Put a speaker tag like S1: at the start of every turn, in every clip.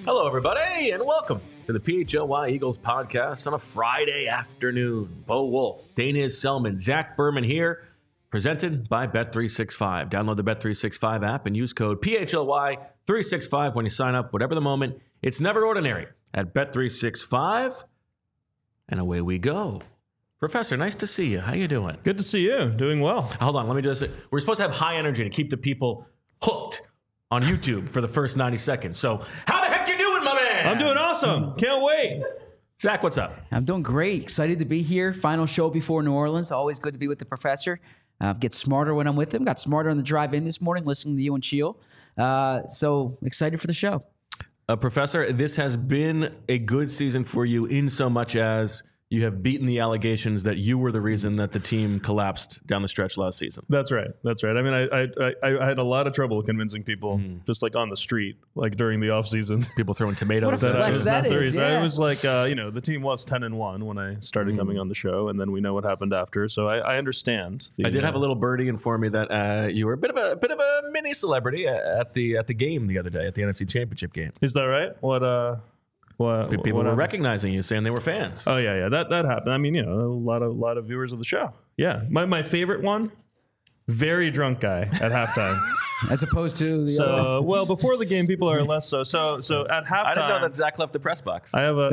S1: Hello, everybody, and welcome to the PHLY Eagles podcast on a Friday afternoon. Bo Wolf, Dana Selman, Zach Berman here, presented by Bet365. Download the Bet365 app and use code PHLY365 when you sign up. Whatever the moment, it's never ordinary at Bet365. And away we go. Professor, nice to see you. How you doing?
S2: Good to see you. Doing well.
S1: Hold on, let me just say, we're supposed to have high energy to keep the people hooked on YouTube for the first 90 seconds. So, how the heck you doing, my man?
S2: I'm doing awesome. Can't wait.
S1: Zach, what's up?
S3: I'm doing great. Excited to be here. Final show before New Orleans. Always good to be with the professor. Get smarter when I'm with him. Got smarter on the drive in this morning, listening to you and Sheil. So excited for the show.
S1: Professor, this has been a good season for you in so much as you have beaten the allegations that you were the reason that the team collapsed down the stretch last season.
S2: That's right. That's right. I mean, I had a lot of trouble convincing people just like on the street, like during the off season.
S1: People throwing tomatoes.
S3: What a flex that is, yeah.
S2: I was like, the team was 10-1 when I started coming on the show, and then we know what happened after. So I understand.
S1: I did have a little birdie inform me that you were a bit of a mini celebrity at the game the other day at the NFC Championship game.
S2: Is that right?
S1: People were recognizing you, saying they were fans.
S2: Oh yeah, that happened. I mean, a lot of viewers of the show. Yeah, my favorite one, very drunk guy at halftime.
S3: As opposed to the other.
S2: Well, before the game, people are less so. So at halftime,
S1: I didn't know that Zach left the press box.
S2: I have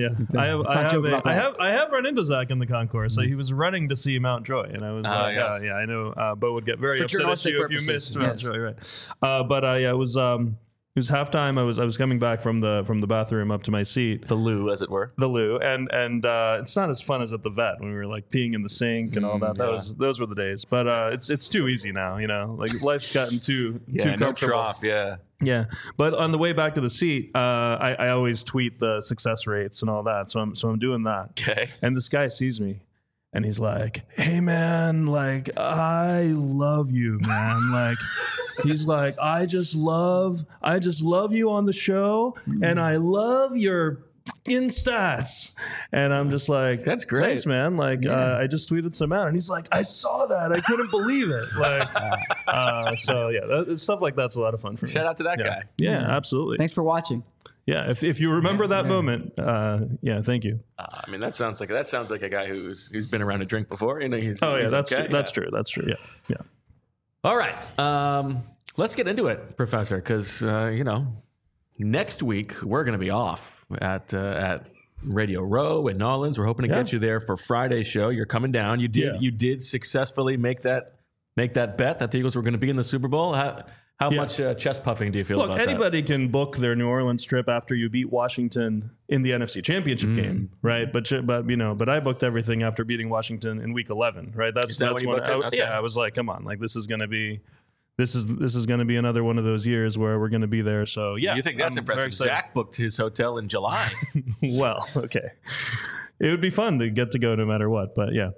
S2: I have run into Zach in the concourse. So he was running to see Mountjoy, and I was
S1: yes.
S2: I know Bo would get very upset at you if you missed Mountjoy, right? It was halftime. I was coming back from the bathroom up to my seat,
S1: The loo, as it were.
S2: the loo, and it's not as fun as at the vet when we were like peeing in the sink and all that. Those were the days. But it's too easy now, Like life's gotten too comfortable.
S1: Trough, yeah.
S2: Yeah, but on the way back to the seat, I always tweet the success rates and all that. So I'm doing that.
S1: Okay.
S2: And this guy sees me. And he's like, "Hey man, like I love you, man." Like he's like, I just love you on the show, and I love your stats. And I'm just like,
S1: that's great,
S2: thanks, man. Like I just tweeted some out, and he's like, I saw that, I couldn't believe it. Like, so yeah, stuff like that's a lot of fun for me.
S1: Shout out to that guy.
S2: Yeah, absolutely.
S3: Thanks for watching.
S2: Yeah, if you remember that moment, thank you.
S1: I mean, that sounds like a guy who's been around a drink before. He's
S2: okay. That's true. Yeah.
S1: All right, let's get into it, Professor, because next week we're going to be off at Radio Row in Nolans. We're hoping to get you there for Friday's show. You're coming down. You did successfully make that bet that the Eagles were going to be in the Super Bowl. How much chest puffing do you feel about that?
S2: Look, anybody can book their New Orleans trip after you beat Washington in the NFC Championship game, right? But I booked everything after beating Washington in Week 11, right? That's
S1: when you
S2: when
S1: booked it? Okay.
S2: Yeah, I was like, come on, like this is going to be another one of those years where we're going to be there. So yeah,
S1: you think that's impressive? Zach booked his hotel in July.
S2: Well, okay, it would be fun to get to go no matter what, but yeah.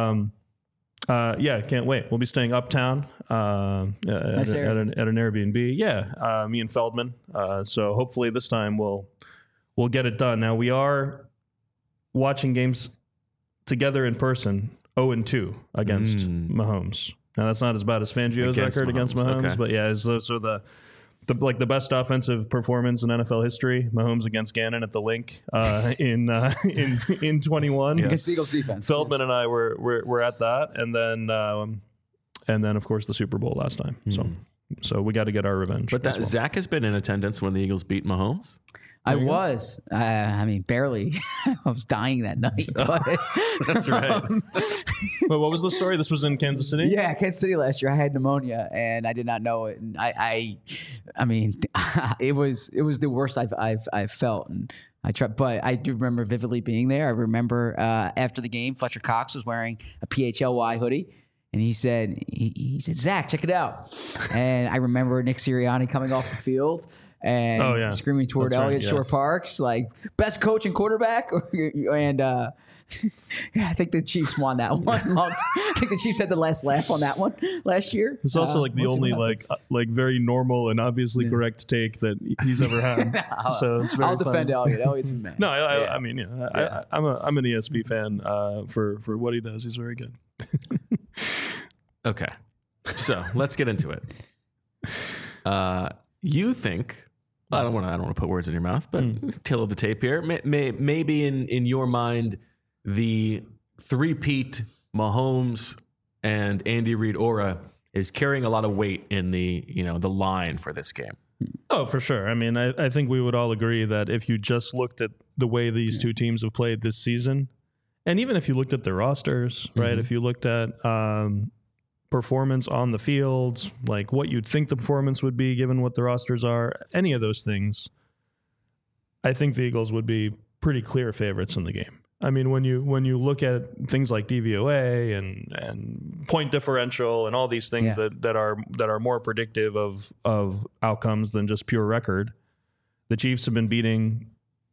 S2: Can't wait. We'll be staying uptown at an Airbnb. Yeah, me and Feldman. So hopefully this time we'll get it done. Now we are watching games together in person, 0-2 against Mahomes. Now that's not as bad as Fangio's record against Mahomes, okay. But yeah, so the best offensive performance in NFL history, Mahomes against Gannon at the Link in 21
S3: against the Eagles defense.
S2: Feldman and I were at that, and then of course the Super Bowl last time. So we got to get our revenge.
S1: But Zach has been in attendance when the Eagles beat Mahomes.
S3: I was. I mean, barely. I was dying that night. But,
S1: that's right.
S2: But what was the story? This was in Kansas City?
S3: Yeah, Kansas City last year. I had pneumonia, and I did not know it. And I mean, it was the worst I've felt. And I tried, but I do remember vividly being there. I remember after the game, Fletcher Cox was wearing a PHLY hoodie. And he said, Zach, check it out. And I remember Nick Sirianni coming off the field and screaming toward Elliott Shore Parks, like, best coach and quarterback. And I think the Chiefs won that one. I think the Chiefs had the last laugh on that one last year.
S2: It's also like the only like very normal and obviously correct take that he's ever had. So it's very
S3: I'll defend Elliott. Elliott's been mad.
S2: No, I mean, I'm an ESP fan for what he does. He's very good.
S1: Okay, so let's get into it. You think I don't want to put words in your mouth, but tail of the tape here. Maybe in your mind, the three-peat Mahomes and Andy Reid aura is carrying a lot of weight in the line for this game.
S2: Oh, for sure. I mean, I think we would all agree that if you just looked at the way these two teams have played this season, and even if you looked at their rosters, right? If you looked at performance on the field, like what you'd think the performance would be given what the rosters are, any of those things, I think the Eagles would be pretty clear favorites in the game. I mean, when you look at things like DVOA and point differential and all these things that are more predictive of outcomes than just pure record, the Chiefs have been beating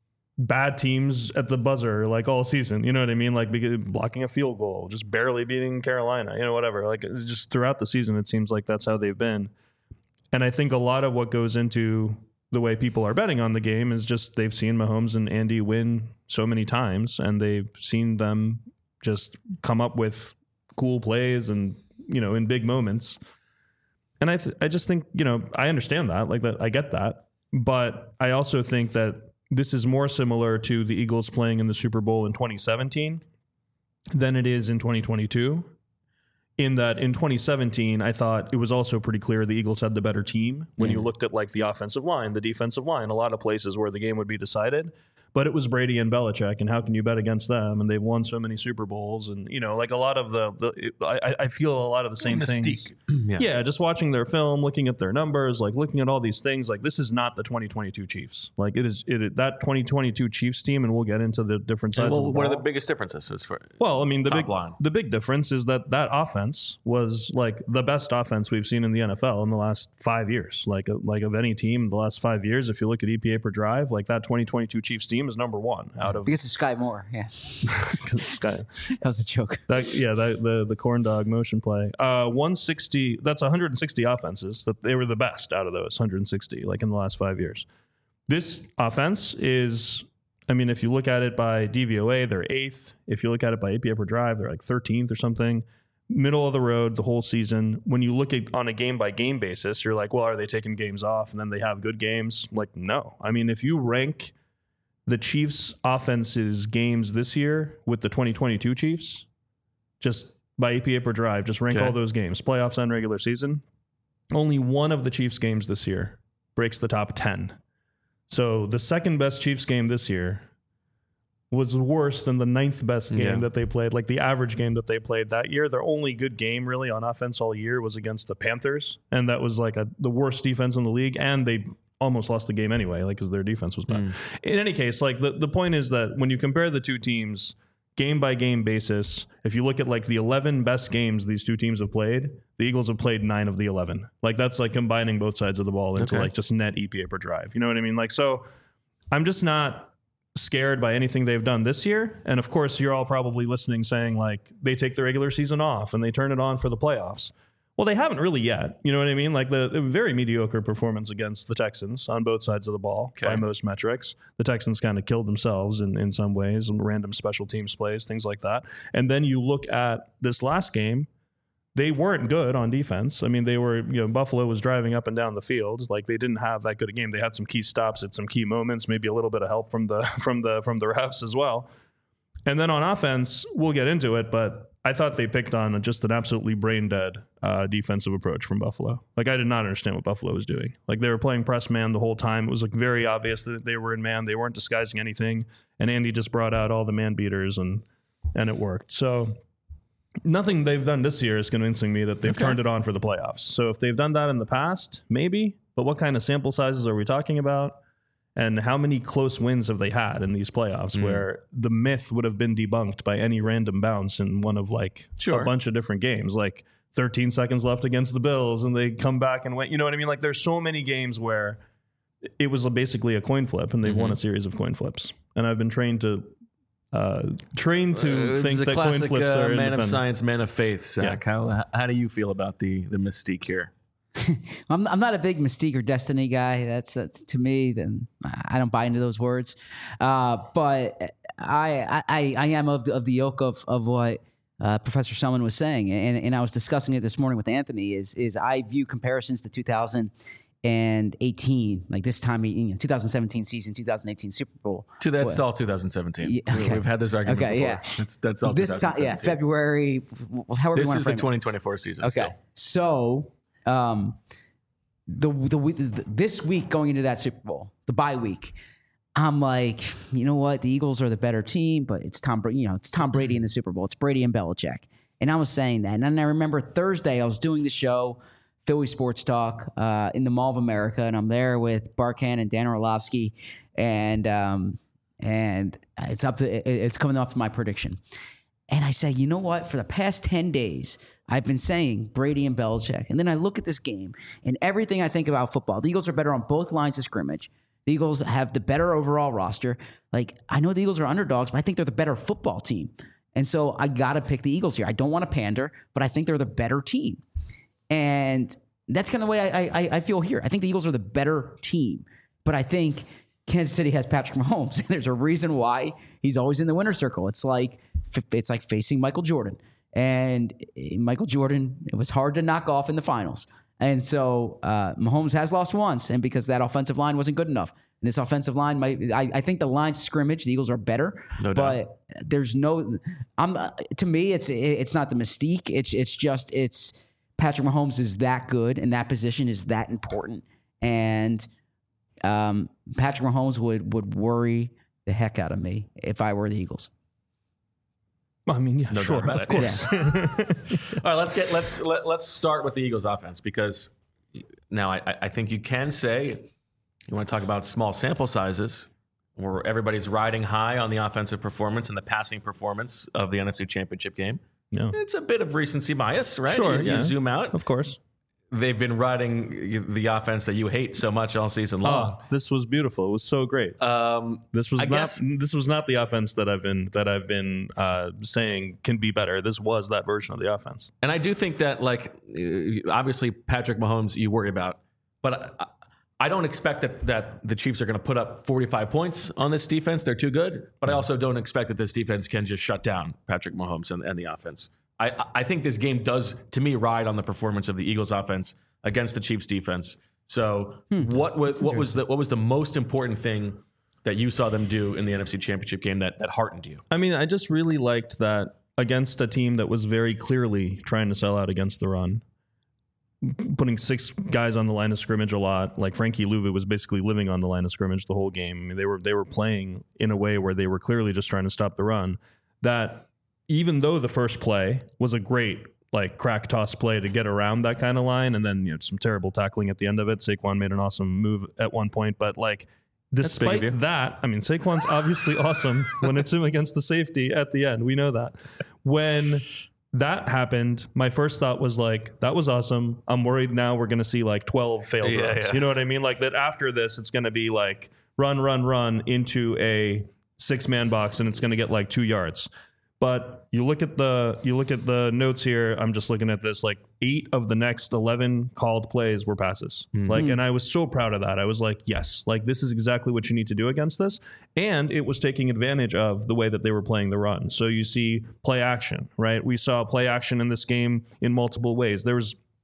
S2: bad teams at the buzzer like all season. You know what I mean? Like blocking a field goal, just barely beating Carolina, whatever. Like just throughout the season, it seems like that's how they've been. And I think a lot of what goes into the way people are betting on the game is just they've seen Mahomes and Andy win so many times, and they've seen them just come up with cool plays and, in big moments. And I just think, I understand that, like that, I get that. But I also think that this is more similar to the Eagles playing in the Super Bowl in 2017 than it is in 2022. In that in 2017, I thought it was also pretty clear the Eagles had the better team when you looked at like the offensive line, the defensive line, a lot of places where the game would be decided. But it was Brady and Belichick, and how can you bet against them? And they've won so many Super Bowls, and like a lot of I feel a lot of the same things. Yeah, just watching their film, looking at their numbers, like looking at all these things. Like this is not the 2022 Chiefs. Like it is that 2022 Chiefs team, and we'll get into the different sides. Well,
S1: what are the biggest differences for?
S2: Well, I mean the big difference is that offense was like the best offense we've seen in the NFL in the last 5 years. Like of any team in the last 5 years, if you look at EPA per drive, like that 2022 Chiefs team is number one out of
S3: because of Sky Moore. Yeah,
S2: Sky.
S3: That was a joke.
S2: The corn dog motion play. 160. That's 160 offenses. That they were the best out of those 160. Like in the last 5 years, this offense is. I mean, if you look at it by DVOA, they're 8th. If you look at it by APA per drive, they're like 13th or something. Middle of the road the whole season. When you look at on a game by game basis, you're like, well, are they taking games off and then they have good games? Like, no. I mean, if you rank the Chiefs' offense's games this year with the 2022 Chiefs, just by APA per drive, just rank all those games, playoffs and regular season. Only one of the Chiefs' games this year breaks the top 10. So the second best Chiefs game this year was worse than the 9th best game that they played. Like the average game that they played that year, their only good game really on offense all year was against the Panthers. And that was like the worst defense in the league. And they almost lost the game anyway, like because their defense was bad. In any case, like the point is that when you compare the two teams game by game basis, if you look at like the 11 best games these two teams have played, the Eagles have played 9 of the 11. Like that's like combining both sides of the ball into like just net EPA per drive. You know what I mean? Like, so I'm just not scared by anything they've done this year. And of course, you're all probably listening saying like they take the regular season off and they turn it on for the playoffs. Well, they haven't really yet. You know what I mean? Like the very mediocre performance against the Texans on both sides of the ball by most metrics. The Texans kind of killed themselves in some ways, and random special teams plays, things like that. And then you look at this last game, they weren't good on defense. I mean, they were, Buffalo was driving up and down the field. Like they didn't have that good a game. They had some key stops at some key moments, maybe a little bit of help from the refs as well. And then on offense, we'll get into it, but I thought they picked on just an absolutely brain dead defensive approach from Buffalo. Like I did not understand what Buffalo was doing. Like they were playing press man the whole time. It was like very obvious that they were in man. They weren't disguising anything. And Andy just brought out all the man beaters and it worked. So nothing they've done this year is convincing me that they've turned it on for the playoffs. So if they've done that in the past, maybe. But what kind of sample sizes are we talking about? And how many close wins have they had in these playoffs where the myth would have been debunked by any random bounce in one of like a bunch of different games, like 13 seconds left against the Bills and they come back and win. You know what I mean? Like there's so many games where it was basically a coin flip and they've won a series of coin flips. And I've been trained to think that
S1: classic,
S2: coin flips are
S1: man of science, man of faith, Zach. Yeah. How do you feel about the mystique here?
S3: I'm not a big mystique or destiny guy. That's to me. Then I don't buy into those words. But I am of the ilk of what Professor Selman was saying, and I was discussing it this morning with Anthony. Is I view comparisons to 2000 and 18, like this time, 2017 season, 2018 Super Bowl.
S1: That's all 2017.
S3: Yeah, okay.
S1: We've had this argument before.
S3: Yeah.
S1: That's all
S3: this time, February, however
S1: this
S3: you want
S1: is
S3: to
S1: the
S3: frame
S1: 2024 season.
S3: Okay.
S1: Still.
S3: So, this week going into that Super Bowl, the bye week, I'm like, you know what? The Eagles are the better team, but it's Tom Brady. It's Tom Brady in the Super Bowl. It's Brady and Belichick. And I was saying that. And then I remember Thursday I was doing the show, Philly Sports Talk, in the Mall of America, and I'm there with Barkan and Dan Orlovsky, and it's coming up to my prediction. And I say, you know what? For the past 10 days, I've been saying Brady and Belichick. And then I look at this game and everything I think about football. The Eagles are better on both lines of scrimmage. The Eagles have the better overall roster. Like, I know the Eagles are underdogs, but I think they're the better football team. And so I got to pick the Eagles here. I don't want to pander, but I think they're the better team. And that's kind of the way I feel here. I think the Eagles are the better team. But I think Kansas City has Patrick Mahomes. And there's a reason why he's always in the winner's circle. It's like facing Michael Jordan. And Michael Jordan, it was hard to knock off in the finals. And so Mahomes has lost once, and because that offensive line wasn't good enough. And this offensive line, I think the line scrimmage, the Eagles are better.
S1: No doubt.
S3: But there's to me, it's not the mystique. It's Patrick Mahomes is that good, and that position is that important. And Patrick Mahomes would worry the heck out of me if I were the Eagles.
S2: I mean, yeah,
S1: No
S2: sure,
S1: doubt about
S2: of course.
S1: All right, let's start with the Eagles offense, because now I think you can say, you want to talk about small sample sizes where everybody's riding high on the offensive performance and the passing performance of the NFC Championship game.
S2: Yeah.
S1: It's a bit of recency bias, right?
S2: Sure,
S1: You zoom out.
S2: Of course.
S1: They've been riding the offense that you hate so much all season long.
S2: Oh, this was beautiful. It was so great. This was not the offense that I've been saying can be better. This was that version of the offense.
S1: And I do think that, like, obviously Patrick Mahomes you worry about, but I don't expect that the Chiefs are going to put up 45 points on this defense. They're too good. But I also don't expect that this defense can just shut down Patrick Mahomes and the offense. I think this game does, to me, ride on the performance of the Eagles offense against the Chiefs defense. So what was the most important thing that you saw them do in the NFC Championship game that heartened you?
S2: I mean, I just really liked that against a team that was very clearly trying to sell out against the run, putting 6 guys on the line of scrimmage a lot. Like Frankie Louvet was basically living on the line of scrimmage the whole game. I mean, they were playing in a way where they were clearly just trying to stop the run. That even though the first play was a great crack toss play to get around that kind of line, and then some terrible tackling at the end of it. Saquon made an awesome move at one point, but despite that, I mean, Saquon's obviously awesome when it's him against the safety at the end. We know that. When that happened, my first thought was that was awesome. I'm worried now we're going to see 12 failed runs. Yeah. You know what I mean? That after this, it's going to be run into a 6-man box, and it's going to get 2 yards. But you look at the notes here. I'm just looking at this. 8 of the next 11 called plays were passes. And I was so proud of that. I was yes, this is exactly what you need to do against this. And it was taking advantage of the way that they were playing the run. So you see play action, right? We saw play action in this game in multiple ways. There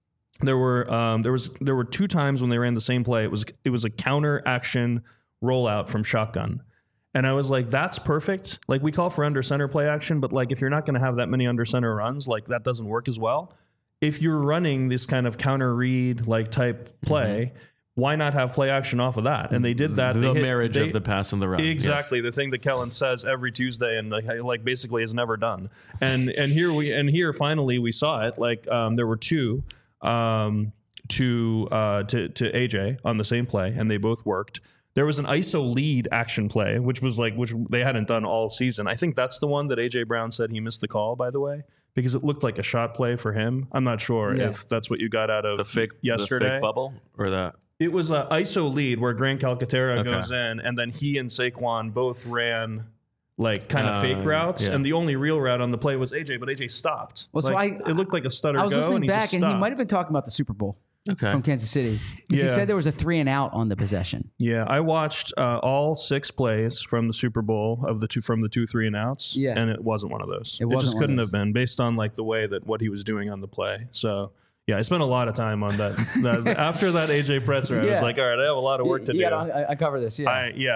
S2: were 2 times when they ran the same play. It was a counter action rollout from shotgun. And I was that's perfect. We call for under center play action, but if you're not going to have that many under center runs, that doesn't work as well. If you're running this kind of counter read type play, why not have play action off of that? And they did that.
S1: The marriage of the pass and the run.
S2: Exactly. Yes. The thing that Kellen says every Tuesday and basically is never done. And here finally we saw it. There were 2 to AJ on the same play, and they both worked. There was an ISO lead action play, which they hadn't done all season. I think that's the one that A.J. Brown said he missed the call, by the way, because it looked like a shot play for him. I'm not sure if that's what you got out of yesterday.
S1: The fake bubble or that?
S2: It was an ISO lead where Grant Calcaterra goes in, and then he and Saquon both ran kind of fake routes, and the only real route on the play was AJ, but AJ stopped.
S3: Well,
S2: it looked like a stutter go.
S3: I was listening back,
S2: and
S3: he might have been talking about the Super Bowl.
S1: Okay.
S3: From Kansas City. Because he said there was a 3 and out on the possession.
S2: Yeah, I watched all 6 plays from the Super Bowl from the 2 3 and outs. Yeah. And it wasn't one of those. It just couldn't have been based on the way that what he was doing on the play. So Yeah, I spent a lot of time on that. After that AJ presser, I was like, all right, I have a lot of work to do.
S3: Yeah, I cover this. Yeah,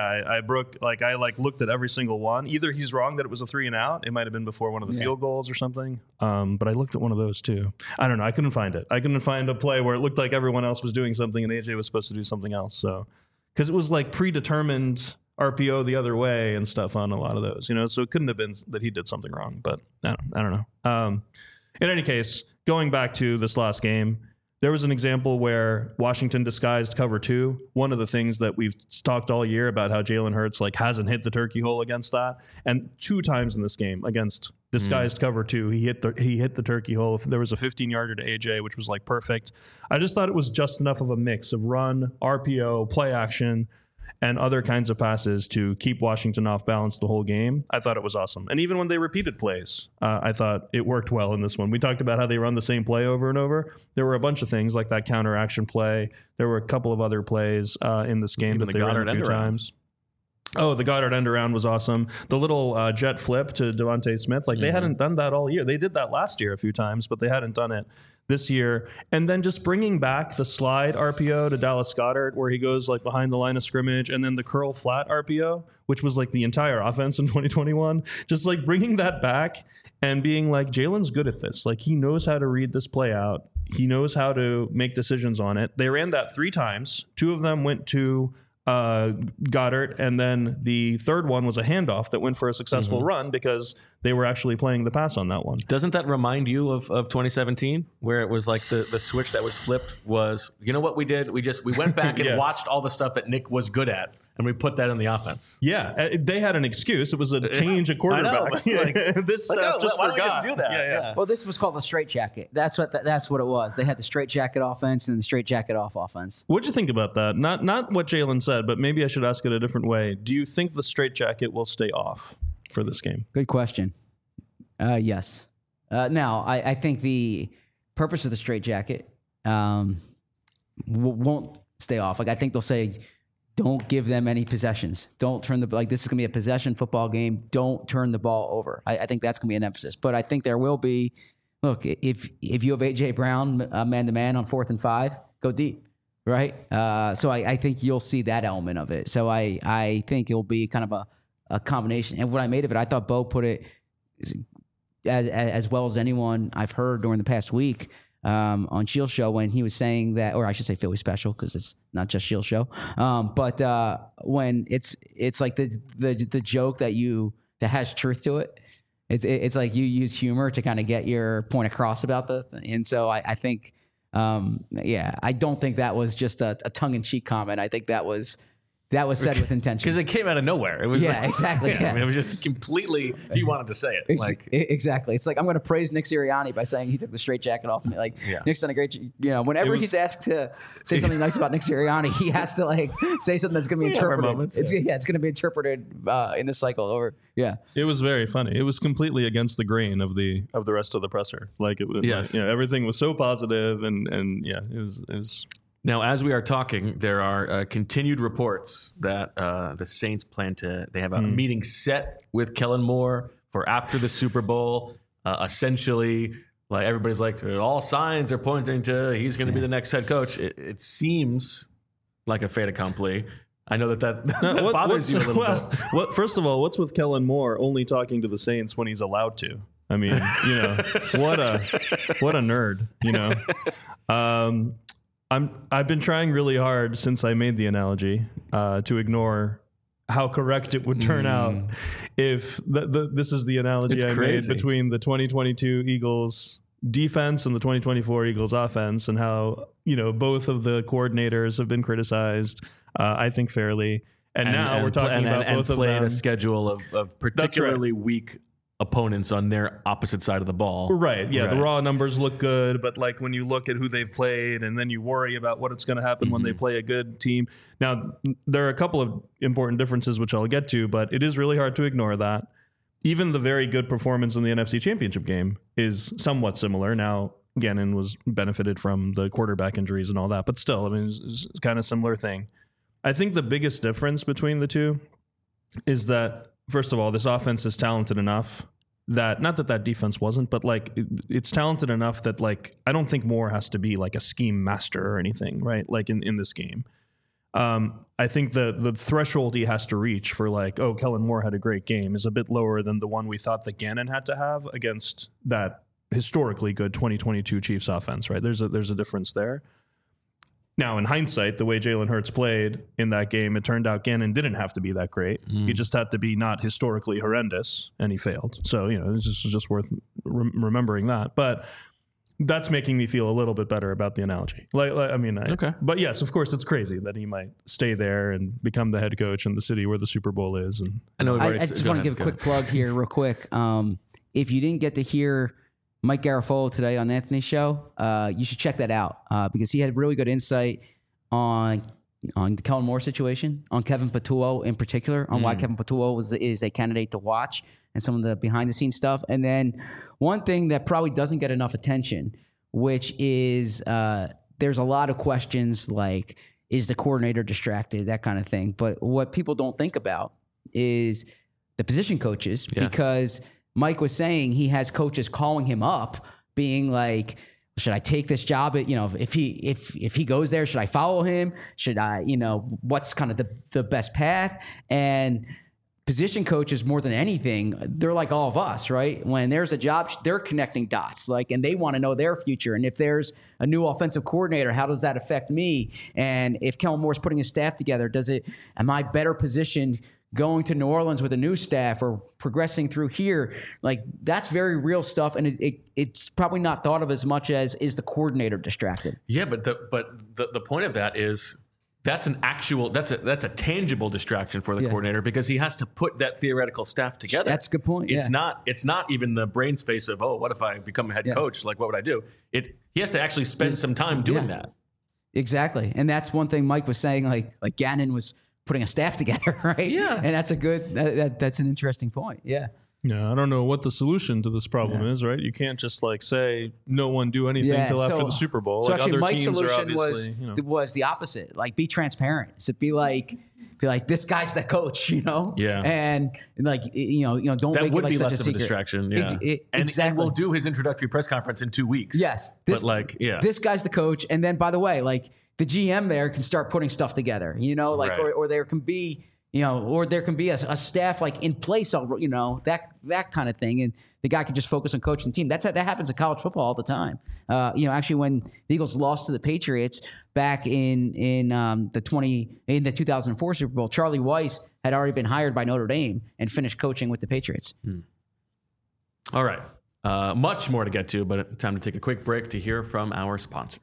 S2: I broke, I looked at every single one. Either he's wrong that it was a 3 and out. It might have been before one of the field goals or something. But I looked at one of those too. I don't know. I couldn't find it. I couldn't find a play where it looked like everyone else was doing something and AJ was supposed to do something else. So, because it was like predetermined RPO the other way and stuff on a lot of those, so it couldn't have been that he did something wrong, but I don't know. In any case, going back to this last game, there was an example where Washington disguised cover 2. One of the things that we've talked all year about how Jalen Hurts hasn't hit the turkey hole against that, and 2 times in this game against disguised cover 2, he hit the turkey hole. There was a 15-yarder to AJ, which was perfect. I just thought it was just enough of a mix of run, RPO, play action, and other kinds of passes to keep Washington off balance the whole game. I thought it was awesome. And even when they repeated plays, I thought it worked well in this one. We talked about how they run the same play over and over. There were a bunch of things like that counter action play. There were a couple of other plays in this game that they ran a few times. Oh, the Goddard end around was awesome. The little jet flip to Devontae Smith, they hadn't done that all year. They did that last year a few times, but they hadn't done it this year. And then just bringing back the slide RPO to Dallas Goedert, where he goes behind the line of scrimmage, and then the curl flat RPO, which was the entire offense in 2021. Just bringing that back and being Jalen's good at this. He knows how to read this play out. He knows how to make decisions on it. They ran that 3 times. 2 of them went to Goddard, and then the third one was a handoff that went for a successful run because they were actually playing the pass on that one.
S1: Doesn't that remind you of 2017, where it was the switch that was flipped was, what we did? We went back and watched all the stuff that Nick was good at, and we put that in the offense.
S2: Yeah, they had an excuse. It was a change of quarterback. This stuff just
S1: why
S2: forgot.
S1: Don't we just do that? Yeah.
S3: Well, this was called the straight jacket. That's what it was. They had the straight jacket offense and the straight jacket off offense.
S2: What'd you think about that? Not what Jalen said, but maybe I should ask it a different way. Do you think the straight jacket will stay off for this game?
S3: Good question. Yes. Now, I think the purpose of the straight jacket won't stay off. I think they'll say, don't give them any possessions. Don't turn this is going to be a possession football game. Don't turn the ball over. I think that's going to be an emphasis. But I think there will be, look, if you have A.J. Brown man-to-man on 4th and 5, go deep, right? So I think you'll see that element of it. So I think it'll be kind of a combination. And what I made of it, I thought Bo put it as well as anyone I've heard during the past week on Shield Show when he was saying that, or I should say Philly Special because it's not just Shield Show. But when it's like the joke that has truth to it. It's like you use humor to kind of get your point across about and so I think I don't think that was just a tongue-in-cheek comment. I think that was said with intention
S1: because it came out of nowhere. It was
S3: exactly.
S1: I mean, it was just completely. He wanted to say it.
S3: Exactly. It's like I'm going to praise Nick Sirianni by saying he took the straight jacket off me. Nick's done a great. Whenever he's asked to say something nice about Nick Sirianni, he has to say something that's going to be interpreted. It's going to be interpreted in this cycle. Or
S2: it was very funny. It was completely against the grain of the rest of the presser. It was everything was so positive and it was.
S1: Now, as we are talking, there are continued reports that the Saints they have a meeting set with Kellen Moore for after the Super Bowl. Essentially, everybody's all signs are pointing to he's going to be the next head coach. It seems like a fait accompli. I know that bothers you a little bit.
S2: First of all, what's with Kellen Moore only talking to the Saints when he's allowed to? I mean, what a nerd, I've been trying really hard since I made the analogy to ignore how correct it would turn out if this is the analogy I made between the 2022 Eagles defense and the 2024 Eagles offense, and how both of the coordinators have been criticized, I think fairly, and now we're talking about both of them
S1: played a schedule of particularly weak opponents on their opposite side of the ball.
S2: Right. Yeah. Right. The raw numbers look good, but when you look at who they've played and then you worry about what's going to happen when they play a good team. Now, there are a couple of important differences, which I'll get to, but it is really hard to ignore that. Even the very good performance in the NFC Championship game is somewhat similar. Now, Gannon was benefited from the quarterback injuries and all that, but still, I mean, it's kind of similar thing. I think the biggest difference between the two is that, first of all, this offense is talented enough that, not that defense wasn't, but like it's talented enough that like I don't think Moore has to be like a scheme master or anything, right? Like in this game. I think the threshold he has to reach for like, oh, Kellen Moore had a great game is a bit lower than the one we thought that Gannon had to have against that historically good 2022 Chiefs offense, right? There's a difference there. Now, in hindsight, the way Jalen Hurts played in that game, it turned out Gannon didn't have to be that great. He just had to be not historically horrendous, and he failed. So, it's just worth remembering that. But that's making me feel a little bit better about the analogy. Okay. But yes, of course, it's crazy that he might stay there and become the head coach in the city where the Super Bowl is. And
S3: I just want to give a quick plug here real quick. If you didn't get to hear Mike Garafolo today on Anthony's show, you should check that out because he had really good insight on the Kellen Moore situation, on Kevin Patullo in particular, on why Kevin Patullo is a candidate to watch and some of the behind-the-scenes stuff. And then one thing that probably doesn't get enough attention, which is there's a lot of questions like, is the coordinator distracted, that kind of thing. But what people don't think about is the position coaches because – Mike was saying he has coaches calling him up, being like, "Should I take this job? If he goes there, should I follow him? Should I? What's kind of the best path?" And position coaches, more than anything, they're like all of us, right? When there's a job, they're connecting dots, and they want to know their future. And if there's a new offensive coordinator, how does that affect me? And if Kellen Moore's putting his staff together, am I better positioned going to New Orleans with a new staff or progressing through here? Like, that's very real stuff, and it's probably not thought of as much as is the coordinator distracted.
S1: Yeah, but the point of that is that's a tangible distraction for the coordinator because he has to put that theoretical staff together.
S3: That's a good point.
S1: It's not even the brain space of, oh, what if I become a head coach? Like, what would I do? He has to actually spend some time doing that.
S3: Exactly, and that's one thing Mike was saying. Like Gannon was putting a staff together, right?
S1: Yeah.
S3: And that's that's an interesting point. Yeah.
S2: Yeah, I don't know what the solution to this problem is, right? You can't just say no one do anything until after the Super Bowl.
S3: So actually, Mike's solution was the opposite. Like, be transparent. So be like this guy's the coach,
S1: Yeah.
S3: And don't make it like such
S1: less of a distraction. Yeah.
S3: Exactly.
S1: And we'll do his introductory press conference in 2 weeks.
S3: Yes.
S1: This
S3: guy's the coach, and then by the way, the GM there can start putting stuff together, right. or there can be, or there can be a staff in place, that kind of thing. And the guy can just focus on coaching the team. That happens in college football all the time. Actually when the Eagles lost to the Patriots back in the 2004 Super Bowl, Charlie Weiss had already been hired by Notre Dame and finished coaching with the Patriots.
S1: All right. Much more to get to, but time to take a quick break to hear from our sponsors.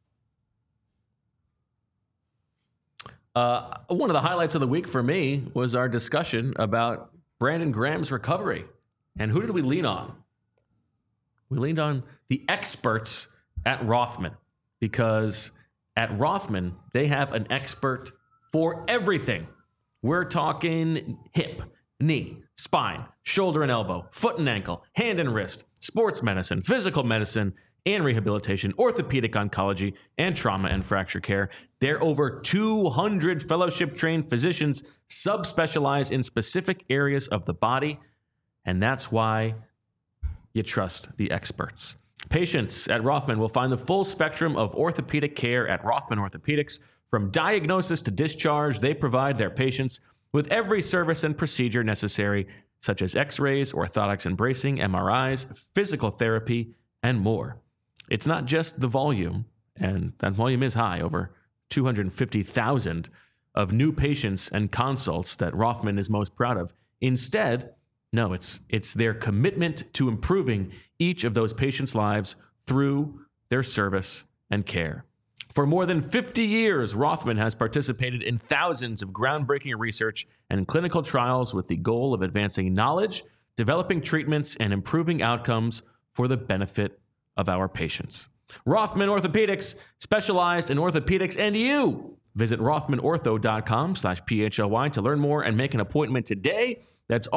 S1: One of the highlights of the week for me was our discussion about Brandon Graham's recovery. And who did we lean on? We leaned on the experts at Rothman, because at Rothman, they have an expert for everything. We're talking hip, knee, spine, shoulder and elbow, foot and ankle, hand and wrist, sports medicine, physical medicine, and rehabilitation, orthopedic oncology, and trauma and fracture care. There are over 200 fellowship-trained physicians subspecialize in specific areas of the body, and that's why you trust the experts. Patients at Rothman will find the full spectrum of orthopedic care at Rothman Orthopedics. From diagnosis to discharge, they provide their patients with every service and procedure necessary, such as x-rays, orthotics and bracing, MRIs, physical therapy, and more. It's not just the volume, and that volume is high, over 250,000 of new patients and consults that Rothman is most proud of. Instead, no, it's their commitment to improving each of those patients' lives through their service and care. For more than 50 years, Rothman has participated in thousands of groundbreaking research and clinical trials with the goal of advancing knowledge, developing treatments, and improving outcomes for the benefit of our patients. Rothman Orthopedics, specialized in orthopedics and you. Visit rothmanortho.com/PHLY to learn more and make an appointment today. That's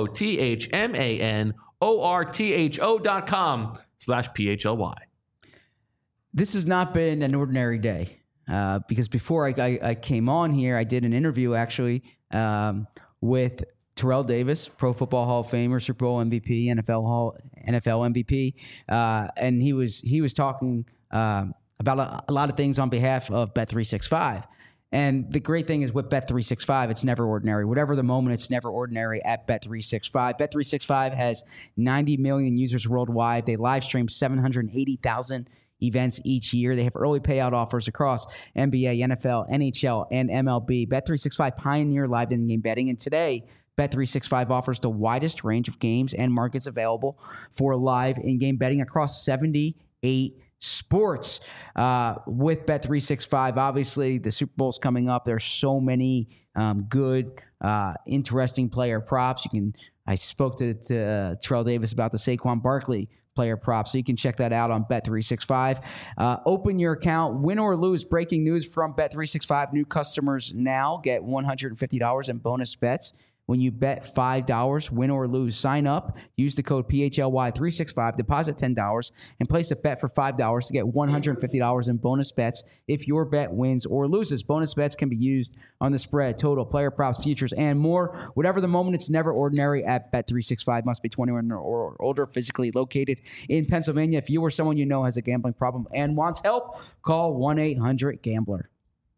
S1: ROTHMANORTHO.com/PHLY.
S3: This has not been an ordinary day because before I came on here, I did an interview actually with Terrell Davis, Pro Football Hall of Famer, Super Bowl MVP, NFL MVP, and he was talking about a lot of things on behalf of Bet365. And the great thing is with Bet365, it's never ordinary. Whatever the moment, it's never ordinary at Bet365. Bet365 has 90 million users worldwide. They live stream 780,000 events each year. They have early payout offers across NBA, NFL, NHL, and MLB. Bet365 pioneer live in-game betting, and today, Bet365 offers the widest range of games and markets available for live in-game betting across 78 sports. With Bet365, obviously, the Super Bowl's coming up. There's so many good, interesting player props. I spoke to Terrell Davis about the Saquon Barkley player props, so you can check that out on Bet365. Open your account, win or lose. Breaking news from Bet365. New customers now get $150 in bonus bets when you bet $5, win or lose. Sign up, use the code PHLY365, deposit $10, and place a bet for $5 to get $150 in bonus bets if your bet wins or loses. Bonus bets can be used on the spread, total, player props, futures, and more. Whatever the moment, it's never ordinary at Bet365. Must be 21 or older, physically located in Pennsylvania. If you or someone you know has a gambling problem and wants help, call 1-800-GAMBLER.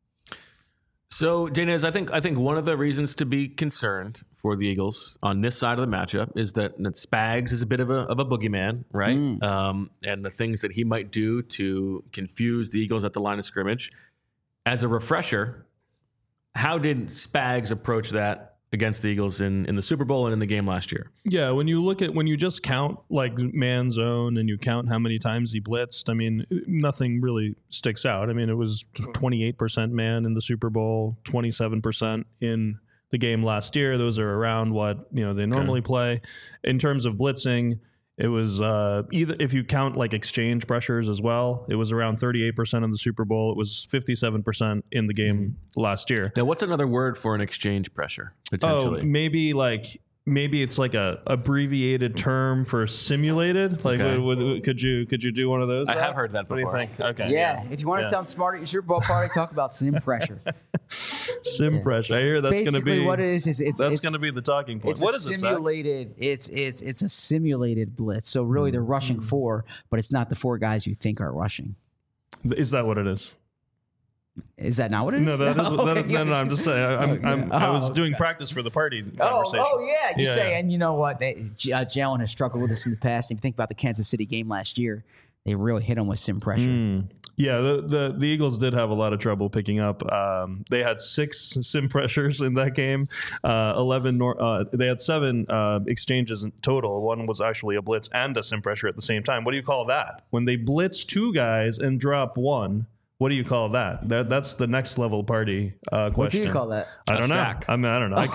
S1: So, Daniz, I think one of the reasons to be concerned for the Eagles on this side of the matchup is that Spags is a bit of a boogeyman, right? And the things that he might do to confuse the Eagles at the line of scrimmage. As a refresher, how did Spags approach that against the Eagles in the Super Bowl and in the game last year?
S2: Yeah, when you just count like man zone and you count how many times he blitzed, I mean, nothing really sticks out. I mean, it was 28% man in the Super Bowl, 27% in the game last year. Those are around what they normally play. In terms of blitzing, it was either, if you count like exchange pressures as well, it was around 38% in the Super Bowl. It was 57% in the game last year.
S1: Now, what's another word for an exchange pressure, potentially?
S2: Oh, maybe it's like a abbreviated term for simulated. Like, could you do one of those?
S1: I have heard that before.
S2: What do you think? Okay.
S3: Yeah, if you want to sound smart at your Super Bowl party, talk about sim pressure.
S2: Sim pressure. I hear that's going to be
S3: what it is. It's
S2: going to be the talking point. What is it?
S3: Simulated. It's a simulated blitz. So really, they're rushing 4, but it's not the 4 guys you think are rushing.
S2: Is that what it is?
S3: Is that not what it is?
S2: No, that is. No, I'm just saying. I was doing practice for the party conversation.
S3: You say, and you know what? Jalen has struggled with this in the past. If you think about the Kansas City game last year, they really hit him with sim pressure.
S2: Yeah, the Eagles did have a lot of trouble picking up. They had 6 sim pressures in that game. 11. They had 7 exchanges in total. One was actually a blitz and a sim pressure at the same time. What do you call that? When they blitz 2 guys and drop 1. What do you call that? That's the next level party question.
S3: What do you call that?
S2: I don't know. I mean, I don't know. I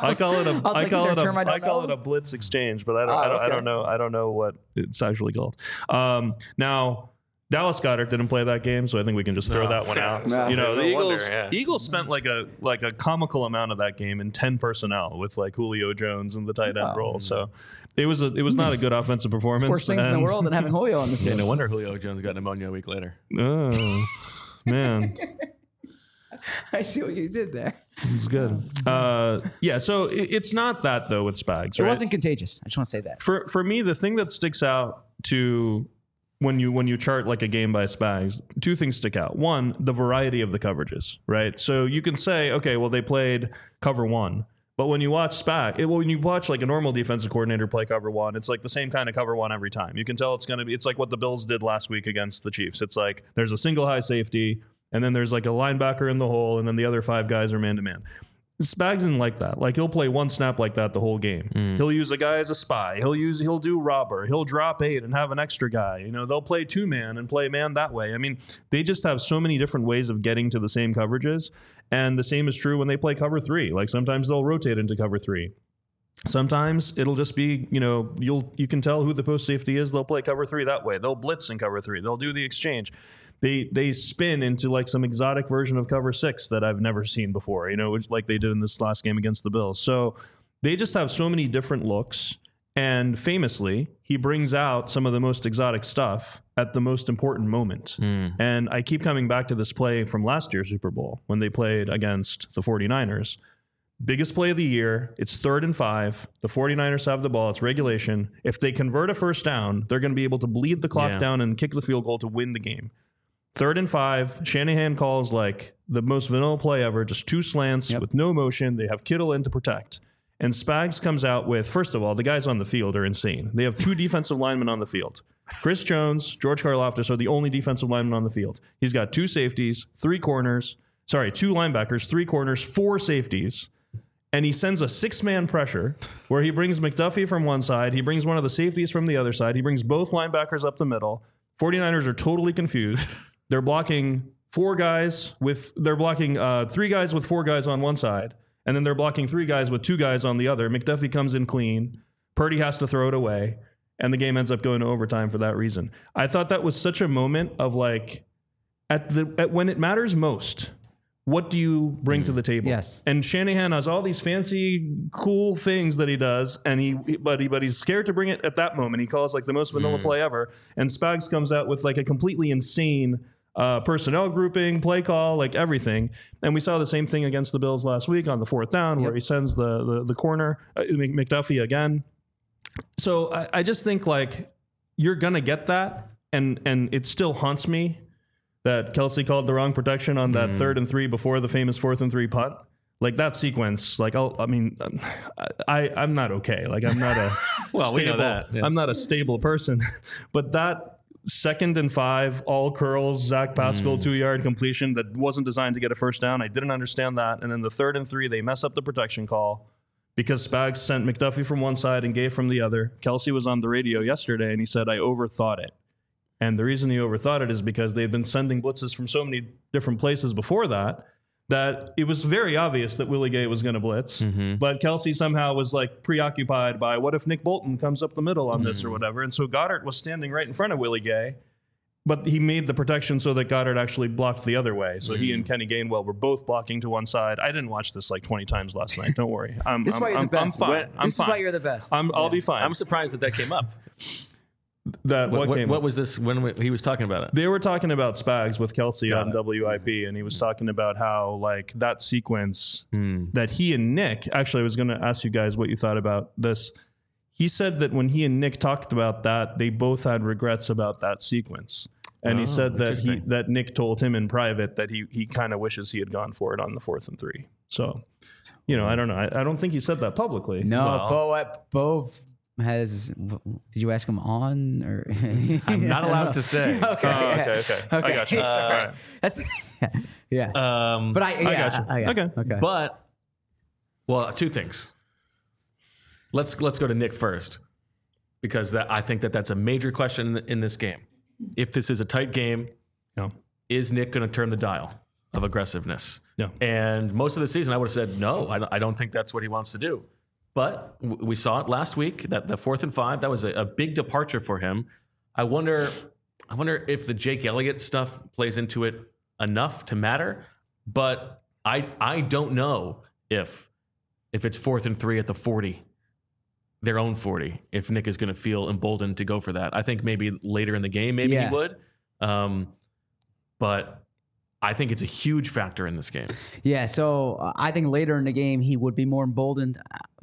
S2: call it a blitz exchange, but I don't know. I don't know what it's actually called. Now, Dallas Goedert didn't play that game, so I think we can just throw that one out. No. The Eagles spent like a comical amount of that game in 10 personnel with like Julio Jones in the tight end role. So it was not a good offensive performance.
S3: Worst things in the world than having Julio on the field.
S1: Yeah, no wonder Julio Jones got pneumonia a week later.
S2: Oh man.
S3: I see what you did there.
S2: It's good. So it's not that though with Spags.
S3: It wasn't contagious. I just want to say that.
S2: For me, the thing that sticks out to when you chart like a game by Spags, 2 things stick out. One, the variety of the coverages, right? So you can say, okay, well, they played cover 1. But when you watch when you watch like a normal defensive coordinator play cover 1, it's like the same kind of cover 1 every time. You can tell it's like what the Bills did last week against the Chiefs. It's like there's a single high safety, and then there's like a linebacker in the hole, and then the other 5 guys are man-to-man. Spags isn't like that. Like he'll play 1 snap like that the whole game. He'll use a guy as a spy. He'll do robber. He'll drop 8 and have an extra guy. They'll play 2-man and play man that way. I mean, they just have so many different ways of getting to the same coverages. And the same is true when they play cover 3. Like sometimes they'll rotate into cover 3. Sometimes it'll just be, you can tell who the post safety is. They'll play cover 3 that way. They'll blitz in cover 3. They'll do the exchange. They spin into like some exotic version of cover 6 that I've never seen before, which like they did in this last game against the Bills. So they just have so many different looks. And famously, he brings out some of the most exotic stuff at the most important moment. And I keep coming back to this play from last year's Super Bowl when they played against the 49ers. Biggest play of the year. It's 3rd and 5. The 49ers have the ball. It's regulation. If they convert a first down, they're going to be able to bleed the clock down and kick the field goal to win the game. 3rd and 5. Shanahan calls like the most vanilla play ever, just 2 slants with no motion. They have Kittle in to protect. And Spags comes out with, first of all, the guys on the field are insane. They have 2 defensive linemen on the field. Chris Jones, George Karlaftis are the only defensive linemen on the field. He's got 2 safeties, 2 linebackers, 3 corners, 4 safeties. And he sends a 6-man pressure where he brings McDuffie from one side. He brings one of the safeties from the other side. He brings both linebackers up the middle. 49ers are totally confused. They're blocking 3 guys with 4 guys on one side. And then they're blocking 3 guys with 2 guys on the other. McDuffie comes in clean. Purdy has to throw it away. And the game ends up going to overtime for that reason. I thought that was such a moment of like, at when it matters most, what do you bring to the table?
S3: Yes.
S2: And Shanahan has all these fancy, cool things that he does, and but he's scared to bring it at that moment. He calls like the most vanilla play ever, and Spags comes out with like a completely insane personnel grouping, play call, like everything. And we saw the same thing against the Bills last week on the 4th down, where he sends the corner McDuffie again. So I just think like you're gonna get that, and it still haunts me that Kelsey called the wrong protection on that 3rd and 3 before the famous 4th and 3 punt. Like that sequence, like I'm not okay. Like I'm not a
S1: we know that. Yeah.
S2: I'm not a stable person, but that 2nd and 5 all curls Zach Pascal 2-yard completion that wasn't designed to get a first down. I didn't understand that. And then the 3rd and 3 they mess up the protection call because Spags sent McDuffie from one side and Gay from the other. Kelsey was on the radio yesterday and he said I overthought it. And the reason he overthought it is because they've been sending blitzes from so many different places before that it was very obvious that Willie Gay was going to blitz. But Kelsey somehow was like preoccupied by what if Nick Bolton comes up the middle on this or whatever. And so Goddard was standing right in front of Willie Gay, but he made the protection so that Goddard actually blocked the other way. So he and Kenny Gainwell were both blocking to one side. I didn't watch this like 20 times last night. Don't worry.
S3: This is why you're the best.
S2: I'm fine.
S3: This is why you're the best.
S2: I'll be fine.
S1: I'm surprised that came up.
S2: What
S1: was this when he was talking about it?
S2: They were talking about Spags with Kelsey on WIP, and he was talking about how like that sequence that he and Nick, actually I was going to ask you guys what you thought about this. He said that when he and Nick talked about that, they both had regrets about that sequence. And he said that Nick told him in private that he kind of wishes he had gone for it on the 4th and 3. So, I don't know. I don't think he said that publicly.
S3: No, Bo did you ask him on or
S1: I'm not allowed to say.
S2: Okay. I got you.
S3: Right. That's yeah. But I got you. Okay.
S1: But 2 things. Let's go to Nick first, because I think that's a major question in this game. If this is a tight game, is Nick going to turn the dial of aggressiveness?
S2: Yeah.
S1: And most of the season, I would have said no. I don't think that's what he wants to do. But we saw it last week, that the 4th and 5, that was a big departure for him. I wonder if the Jake Elliott stuff plays into it enough to matter. But I don't know if it's 4th and 3 at the 40, their own 40, if Nick is going to feel emboldened to go for that. I think maybe later in the game, he would. But I think it's a huge factor in this game.
S3: Yeah, so I think later in the game he would be more emboldened.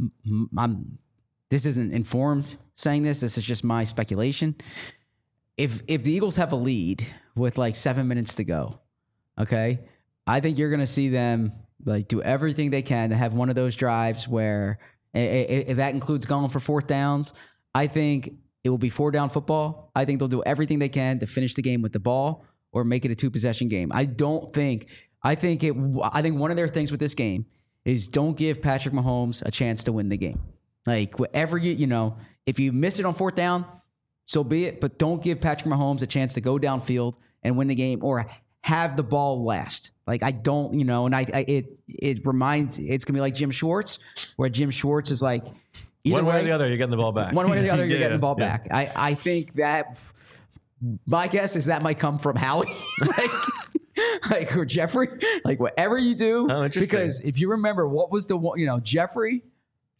S3: This isn't informed saying this. This is just my speculation. If the Eagles have a lead with like 7 minutes to go, okay, I think you're going to see them like do everything they can to have one of those drives where if that includes going for 4th downs, I think it will be 4-down football. I think they'll do everything they can to finish the game with the ball or make it a 2-possession game. I think one of their things with this game is don't give Patrick Mahomes a chance to win the game. Like whatever if you miss it on 4th down, so be it, but don't give Patrick Mahomes a chance to go downfield and win the game or have the ball last. Like I don't, and it reminds, it's going to be like Jim Schwartz, where Jim Schwartz is like,
S1: one way or the other, you're getting the ball back.
S3: One way or the other, you're getting the ball back. I think that my guess is that might come from Howie, or Jeffrey, like whatever you do.
S1: Oh, interesting.
S3: Because if you remember, what was the one, Jeffrey,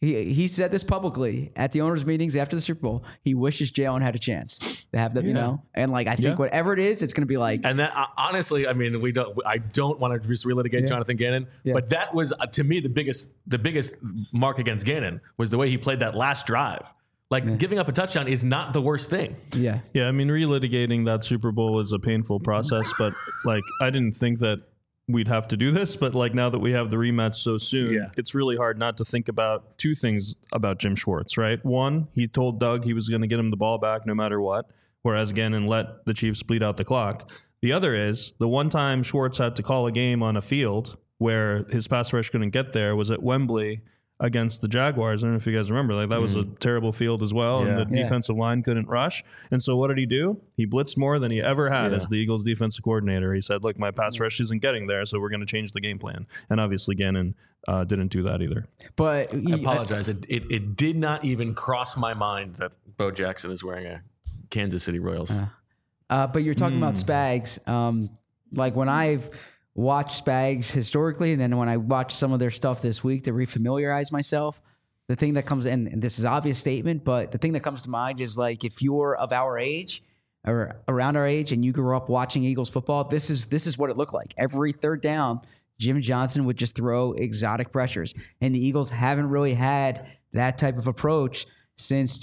S3: He said this publicly at the owners' meetings after the Super Bowl. He wishes Jalen had a chance to have them, you know. And like I think whatever it is, it's going to be like.
S1: And that honestly, I mean, I don't want to just relitigate Jonathan Gannon, but that was to me the biggest mark against Gannon was the way he played that last drive. Like giving up a touchdown is not the worst thing.
S2: Yeah. I mean, relitigating that Super Bowl was a painful process, but like I didn't think that we'd have to do this, but like now that we have the rematch so soon, it's really hard not to think about two things about Jim Schwartz, right? One, he told Doug he was going to get him the ball back no matter what, whereas Gannon let the Chiefs bleed out the clock. The other is the one time Schwartz had to call a game on a field where his pass rush couldn't get there was at Wembley against the Jaguars. I don't know if you guys remember, like that was a terrible field as well, and the defensive line couldn't rush. And so what did he do? He blitzed more than he ever had as the Eagles defensive coordinator. He said, look, my pass rush isn't getting there, so we're going to change the game plan. And obviously Gannon didn't do that either.
S3: But
S1: I apologize. It did not even cross my mind that Bo Jackson is wearing a Kansas City Royals.
S3: But you're talking about Spags. Like when I've watched Spags historically, and then when I watched some of their stuff this week to refamiliarize myself, the thing that comes in, and this is an obvious statement, but the thing that comes to mind is like if you're of our age or around our age and you grew up watching Eagles football, this is what it looked like. Every third down, Jim Johnson would just throw exotic pressures, and the Eagles haven't really had that type of approach since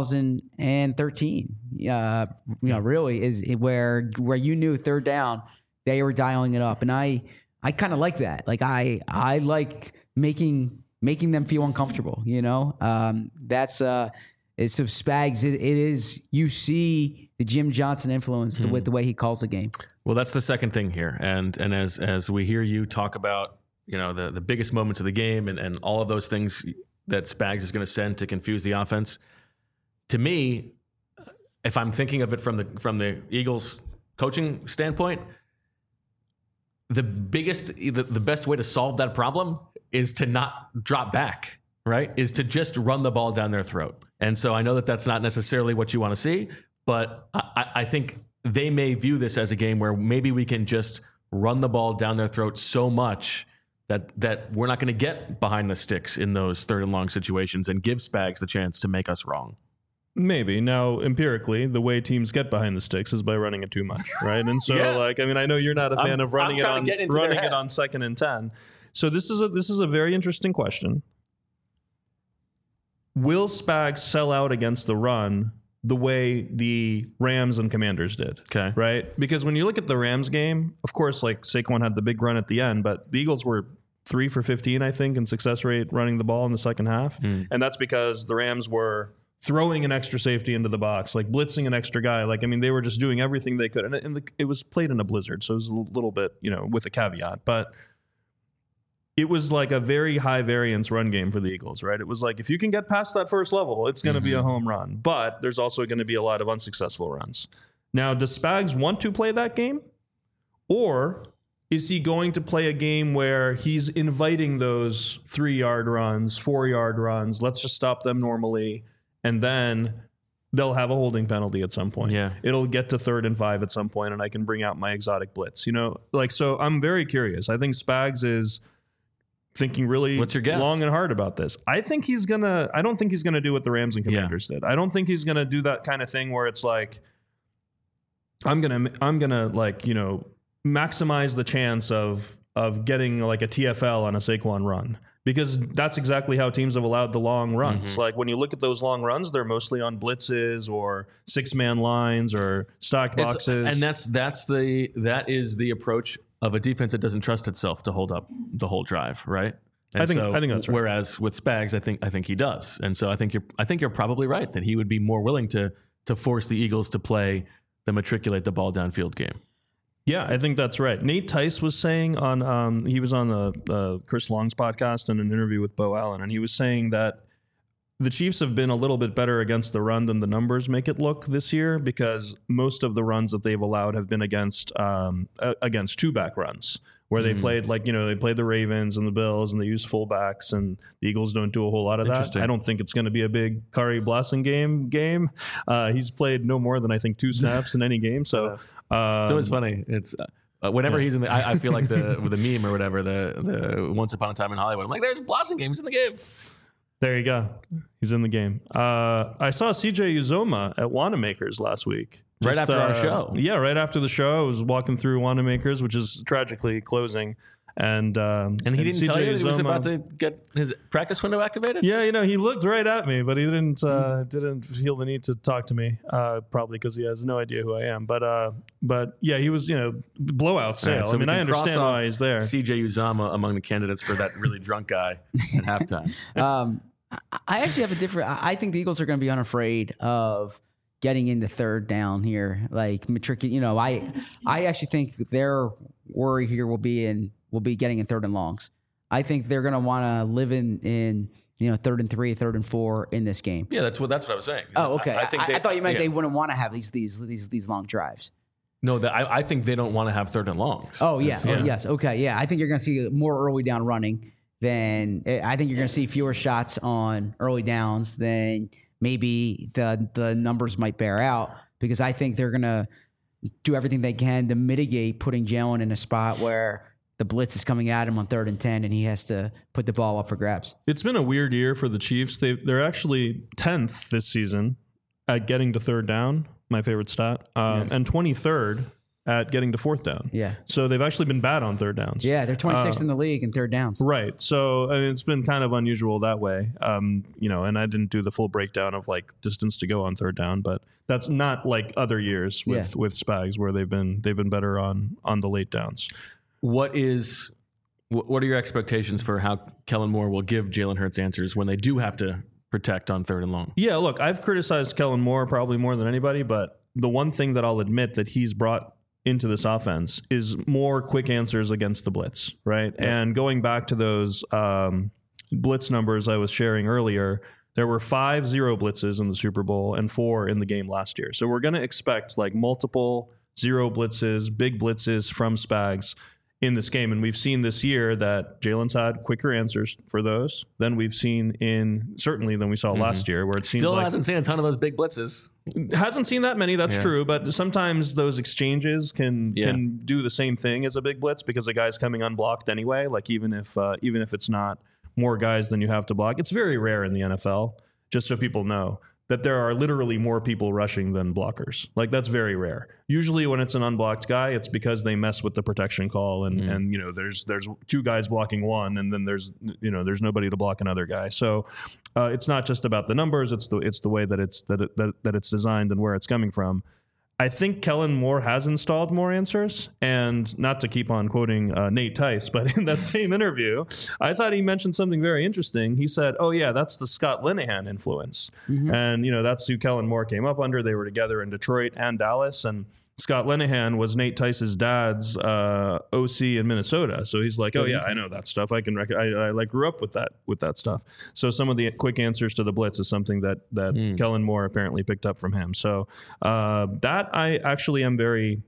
S3: 2013. Really is where you knew third down they were dialing it up, and I kind of like that. Like I like making them feel uncomfortable. You know, that's so Spags. It is, you see the Jim Johnson influence with the way he calls the game.
S1: Well, that's the second thing here, and as we hear you talk about, you know, the biggest moments of the game and all of those things that Spags is going to send to confuse the offense. To me, if I'm thinking of it from the Eagles coaching standpoint, the best way to solve that problem is to not drop back, right? Is to just run the ball down their throat. And so I know that that's not necessarily what you want to see, but I think they may view this as a game where maybe we can just run the ball down their throat so much that we're not going to get behind the sticks in those third and long situations and give Spags the chance to make us wrong.
S2: Maybe. Now, empirically, the way teams get behind the sticks is by running it too much, right? And so, like, I mean, I know you're not a fan of running it on 2nd and 10. So this is a very interesting question. Will Spags sell out against the run the way the Rams and Commanders did?
S1: Okay.
S2: Right? Because when you look at the Rams game, of course, like Saquon had the big run at the end, but the Eagles were 3 for 15, I think, in success rate running the ball in the second half. And that's because the Rams were throwing an extra safety into the box, like blitzing an extra guy. Like, I mean, they were just doing everything they could. And it was played in a blizzard, so it was a little bit, you know, with a caveat. But it was like a very high variance run game for the Eagles, right? It was like, if you can get past that first level, it's going to be a home run. But there's also going to be a lot of unsuccessful runs. Now, does Spags want to play that game? Or is he going to play a game where he's inviting those 3-yard runs, 4-yard runs? Let's just stop them normally. And then they'll have a holding penalty at some point.
S1: Yeah.
S2: It'll get to 3rd and 5 at some point, and I can bring out my exotic blitz. You know, like, so I'm very curious. I think Spags is thinking really long and hard about this. I don't think he's gonna do what the Rams and Commanders did. I don't think he's gonna do that kind of thing where it's like, I'm gonna like, you know, maximize the chance of getting like a TFL on a Saquon run. Because that's exactly how teams have allowed the long runs. Like when you look at those long runs, they're mostly on blitzes or 6-man lines or stock boxes.
S1: And that is the approach of a defense that doesn't trust itself to hold up the whole drive, right? And
S2: I think that's right.
S1: Whereas with Spags, I think he does. And so I think you're probably right that he would be more willing to force the Eagles to play the matriculate the ball downfield game.
S2: Yeah, I think that's right. Nate Tice was saying on he was on Chris Long's podcast in an interview with Bo Allen, and he was saying that the Chiefs have been a little bit better against the run than the numbers make it look this year, because most of the runs that they've allowed have been against two-back runs, where they played they played the Ravens and the Bills and they used fullbacks, and the Eagles don't do a whole lot of that. I don't think it's going to be a big Kari Blasingame game. He's played no more than I think 2 snaps in any game. So
S1: it's always funny. It's whenever he's in the, I feel like the meme or whatever, the Once Upon a Time in Hollywood. I'm like, there's Blasingame in the game.
S2: There you go. He's in the game. I saw CJ Uzoma at Wanamaker's last week.
S1: Right after our show.
S2: Yeah, right after the show. I was walking through Wanamaker's, which is tragically closing. And
S1: he didn't tell you he was about to get his practice window activated?
S2: Yeah, he looked right at me, but he didn't feel the need to talk to me, probably because he has no idea who I am. But yeah, he was, blowout sale.
S1: Right, so
S2: I understand why he's there.
S1: CJ Uzama among the candidates for that really drunk guy at halftime.
S3: I actually have a different. I think the Eagles are going to be unafraid of getting into third down here, like matriculating. I actually think their worry here will be getting in third and longs. I think they're going to want to live in 3rd and 3, 3rd and 4 in this game.
S1: Yeah, that's what I was saying.
S3: Oh, okay. I thought you meant they wouldn't want to have these long drives.
S1: No, I think they don't want to have 3rd and longs.
S3: Oh yeah. Yes. Okay. Yeah. I think you're going to see more early down running than I think you're going to see fewer shots on early downs than maybe the numbers might bear out, because I think they're going to do everything they can to mitigate putting Jalen in a spot where the blitz is coming at him on 3rd and 10, and he has to put the ball up for grabs.
S2: It's been a weird year for the Chiefs. They're actually 10th this season at getting to 3rd down, my favorite stat, and 23rd at getting to 4th down.
S3: Yeah.
S2: So they've actually been bad on 3rd downs.
S3: Yeah, they're 26th in the league in 3rd downs.
S2: Right. So it's been kind of unusual that way. And I didn't do the full breakdown of like distance to go on 3rd down, but that's not like other years with Spags where they've been better on the late downs.
S1: What are your expectations for how Kellen Moore will give Jalen Hurts answers when they do have to protect on 3rd and long?
S2: Yeah, look, I've criticized Kellen Moore probably more than anybody, but the one thing that I'll admit that he's brought into this offense is more quick answers against the blitz, right? Yeah. And going back to those blitz numbers I was sharing earlier, there were 5 zero blitzes in the Super Bowl and 4 in the game last year. So we're going to expect like multiple zero blitzes, big blitzes from Spags in this game. And we've seen this year that Jalen's had quicker answers for those than we've seen certainly than we saw last year, where it seems
S1: still hasn't seen a ton of those big blitzes.
S2: Hasn't seen that many, that's true. But sometimes those exchanges can do the same thing as a big blitz because the guy's coming unblocked anyway. Like even if it's not more guys than you have to block, it's very rare in the NFL, just so people know, that there are literally more people rushing than blockers. Like that's very rare. Usually when it's an unblocked guy, it's because they mess with the protection call and there's 2 guys blocking one and then there's nobody to block another guy. So it's not just about the numbers, it's the way that it's designed and where it's coming from. I think Kellen Moore has installed more answers, and not to keep on quoting Nate Tice, but in that same interview, I thought he mentioned something very interesting. He said, "Oh yeah, that's the Scott Linehan influence," and that's who Kellen Moore came up under. They were together in Detroit and Dallas, and Scott Linehan was Nate Tice's dad's OC in Minnesota. So he's like, "Oh yeah, I know that stuff. I can I like grew up with that stuff." So some of the quick answers to the blitz is something that Kellen Moore apparently picked up from him. So that I actually am very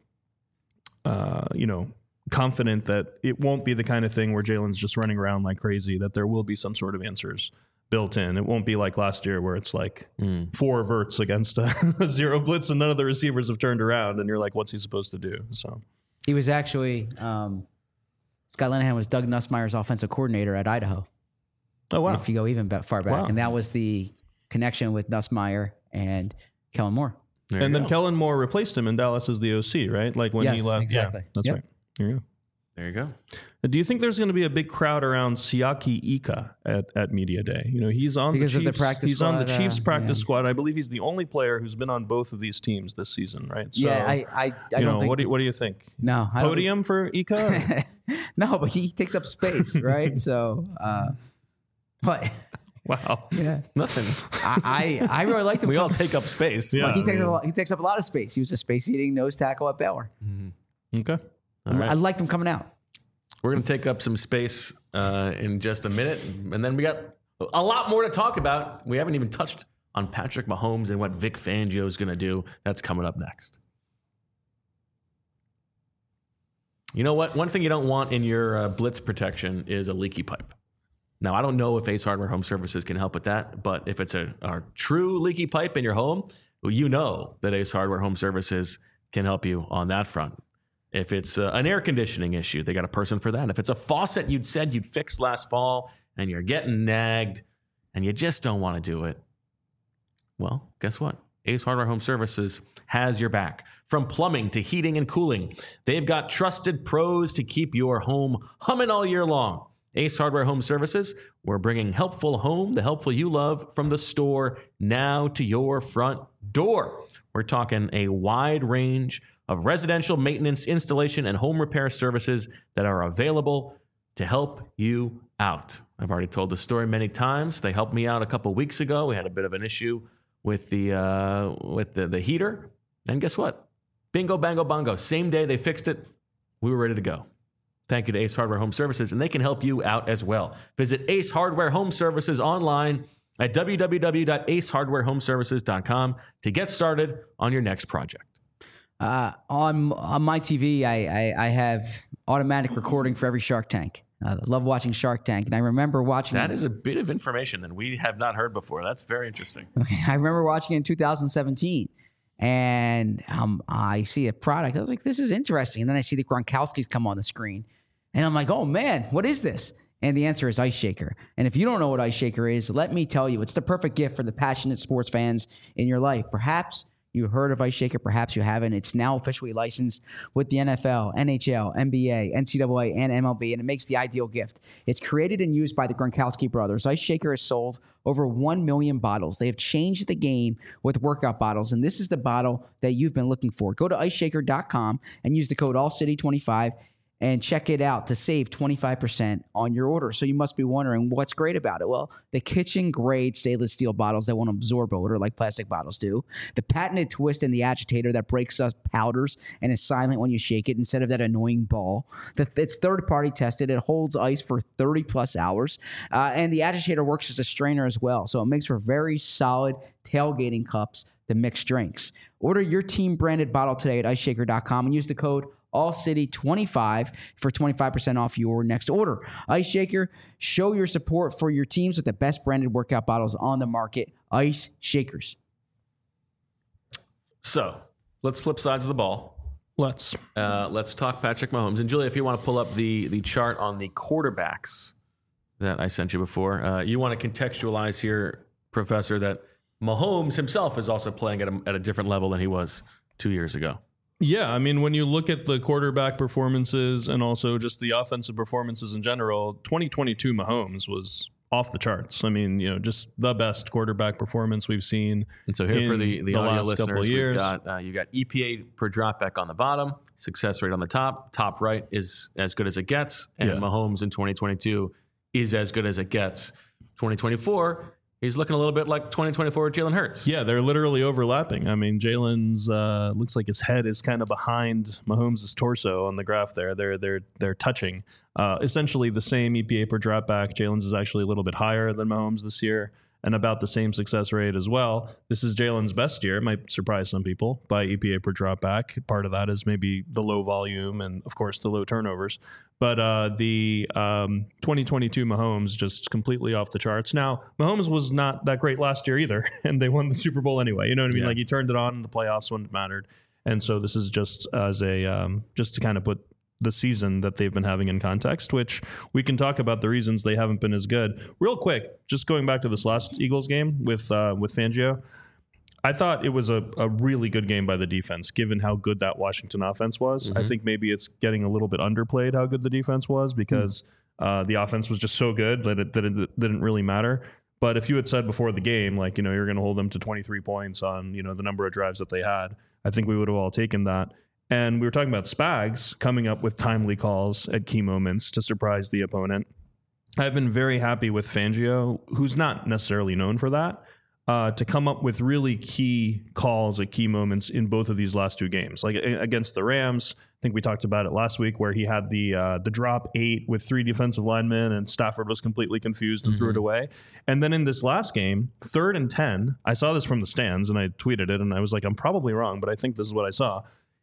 S2: confident that it won't be the kind of thing where Jalen's just running around like crazy, that there will be some sort of answers built in. It won't be like last year where it's like 4 verts against a zero blitz and none of the receivers have turned around and you're like, what's he supposed to do? So
S3: he was actually Scott Linehan was Doug Nussmeier's offensive coordinator at Idaho.
S2: Oh wow!
S3: If you go even far back, and that was the connection with Nussmeier and Kellen Moore.
S2: And then Kellen Moore replaced him in Dallas as the OC, right? Like when he left.
S3: Exactly.
S2: Yeah, that's right. There you go.
S1: There you go.
S2: Do you think there's going to be a big crowd around Siaki Ika at Media Day? He's on the Chiefs practice squad. I believe he's the only player who's been on both of these teams this season, right? So,
S3: I don't think.
S2: What do you think?
S3: No,
S2: podium for Ika?
S3: No, but he takes up space, right? So, but.
S2: Wow.
S3: Yeah.
S1: Nothing.
S3: I really liked him.
S1: We all take up space.
S3: Yeah. He takes up a lot of space. He was a space-eating nose tackle at Baylor.
S2: Mm-hmm. Okay.
S3: Right. I liked him coming out.
S1: We're going to take up some space in just a minute, and then we got a lot more to talk about. We haven't even touched on Patrick Mahomes and what Vic Fangio is going to do. That's coming up next. You know what? One thing you don't want in your blitz protection is a leaky pipe. Now, I don't know if Ace Hardware Home Services can help with that, but if it's a true leaky pipe in your home, well, you know that Ace Hardware Home Services can help you on that front. If it's an air conditioning issue, they got a person for that. If it's a faucet you'd said you'd fixed last fall and you're getting nagged, and you just don't want to do it, well, guess what? Ace Hardware Home Services has your back. From plumbing to heating and cooling, they've got trusted pros to keep your home humming all year long. Ace Hardware Home Services, we're bringing helpful home, the helpful you love, from the store now to your front door. We're talking a wide range of residential maintenance, installation, and home repair services that are available to help you out. I've already told the story many times. They helped me out a couple weeks ago. We had a bit of an issue with the heater. And guess what? Bingo, bango, bongo. Same day they fixed it, we were ready to go. Thank you to Ace Hardware Home Services, and they can help you out as well. Visit Ace Hardware Home Services online at www.acehardwarehomeservices.com to get started on your next project.
S3: On my TV, I have automatic recording for every Shark Tank. I love watching Shark Tank, and I remember watching
S1: that. Is a bit of information that we have not heard before. That's very interesting.
S3: Okay, I remember watching it in 2017, and I see a product. I was like, this is interesting. And then I see the Gronkowski's come on the screen, and I'm like, oh man, what is this? And the answer is Ice Shaker. And if you don't know what Ice Shaker is, let me tell you, it's the perfect gift for the passionate sports fans in your life. Perhaps you heard of Ice Shaker, perhaps you haven't. It's now officially licensed with the NFL, NHL, NBA, NCAA, and MLB, and it makes the ideal gift. It's created and used by the Gronkowski brothers. Ice Shaker has sold over 1 million bottles. They have changed the game with workout bottles, and this is the bottle that you've been looking for. Go to iceshaker.com and use the code AllCity25 and check it out to save 25% on your order. So you must be wondering what's great about it. Well, the kitchen-grade stainless steel bottles that won't absorb odor like plastic bottles do. The patented twist in the agitator that breaks up powders and is silent when you shake it instead of that annoying ball. It's third-party tested. It holds ice for 30-plus hours. And the agitator works as a strainer as well. So it makes for very solid tailgating cups to mix drinks. Order your team-branded bottle today at iceshaker.com and use the code AllCity25 for 25% off your next order. Ice Shaker, show your support for your teams with the best branded workout bottles on the market. Ice Shakers.
S1: So let's flip sides of the ball.
S2: Let's
S1: talk Patrick Mahomes. And Julia, if you want to pull up the chart on the quarterbacks that I sent you before, you want to contextualize here, Professor, that Mahomes himself is also playing at a different level than he was 2 years ago.
S2: Yeah, I mean, when you look at the quarterback performances and also just the offensive performances in general, 2022 Mahomes was off the charts. I mean, just the best quarterback performance we've seen.
S1: And so here for the audio listeners, we've got you got EPA per dropback on the bottom, success rate on the top. Top right is as good as it gets, and Mahomes in 2022 is as good as it gets. 2024. He's looking a little bit like 2024 Jalen Hurts.
S2: Yeah, they're literally overlapping. I mean, Jalen's looks like his head is kind of behind Mahomes' torso on the graph there. They're touching. Essentially the same EPA per dropback. Jalen's is actually a little bit higher than Mahomes this year and about the same success rate as well. This is Jalen's best year. It might surprise some people by EPA per dropback. Part of that is maybe the low volume and, of course, the low turnovers. But the 2022 Mahomes just completely off the charts. Now, Mahomes was not that great last year either, and they won the Super Bowl anyway. You know what I mean? Like, he turned it on in the playoffs when it mattered. And so this is just as a just to kind of put the season that they've been having in context, which we can talk about the reasons they haven't been as good. Real quick, just going back to this last Eagles game with Fangio, I thought it was a really good game by the defense, given how good that Washington offense was. Mm-hmm. I think maybe it's getting a little bit underplayed how good the defense was because the offense was just so good that it didn't really matter. But if you had said before the game, like, you're going to hold them to 23 points on, the number of drives that they had, I think we would have all taken that. And we were talking about Spags coming up with timely calls at key moments to surprise the opponent. I've been very happy with Fangio, who's not necessarily known for that, to come up with really key calls at key moments in both of these last two games. Like against the Rams, I think we talked about it last week, where he had the drop 8 with 3 defensive linemen and Stafford was completely confused and threw it away. And then in this last game, 3rd and 10, I saw this from the stands and I tweeted it and I was like, I'm probably wrong, but I think this is what I saw.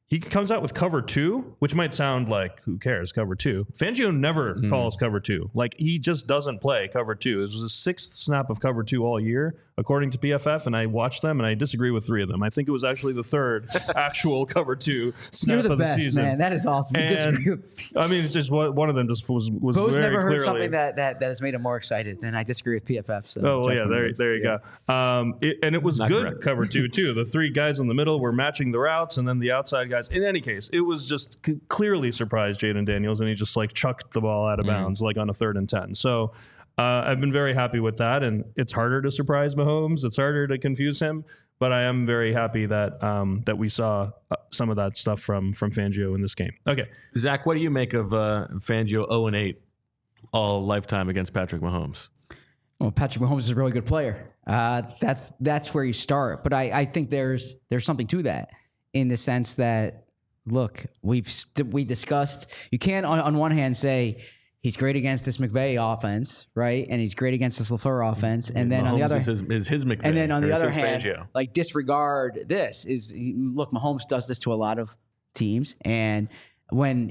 S2: he comes out with cover 2, which might sound like, who cares, cover 2. Fangio never calls cover 2. Like, he just doesn't play cover 2. This was the 6th snap of cover 2 all year, according to PFF, and I watched them, and I disagree with 3 of them. I think it was actually the 3rd actual cover 2 snap
S3: You're the
S2: of the
S3: best,
S2: season.
S3: Man. That is awesome.
S2: I mean, it's just one of them just was
S3: Bo's
S2: very
S3: never heard
S2: clearly
S3: something that has made him more excited. And I disagree with PFF. So
S2: oh, well, yeah, there you go. And it was
S1: Not
S2: good
S1: correct.
S2: cover 2, too. The 3 guys in the middle were matching the routes, and then the outside guys. In any case, it was just clearly surprised Jaden Daniels, and he just like chucked the ball out of bounds like on a 3rd and 10. So I've been very happy with that, and it's harder to surprise Mahomes. It's harder to confuse him, but I am very happy that that we saw some of that stuff from Fangio in this game. Okay,
S1: Zach, what do you make of Fangio 0-8 all lifetime against Patrick Mahomes?
S3: Well, Patrick Mahomes is a really good player. That's where you start. But I think there's something to that in the sense that, look, we discussed, you can't on one hand say he's great against this McVay offense, right? And he's great against this LaFleur offense. And then
S1: Mahomes
S3: on the other
S1: is his McVay.
S3: and then on the other
S1: his
S3: hand,
S1: Fangio.
S3: like disregard this look, Mahomes does this to a lot of teams. And when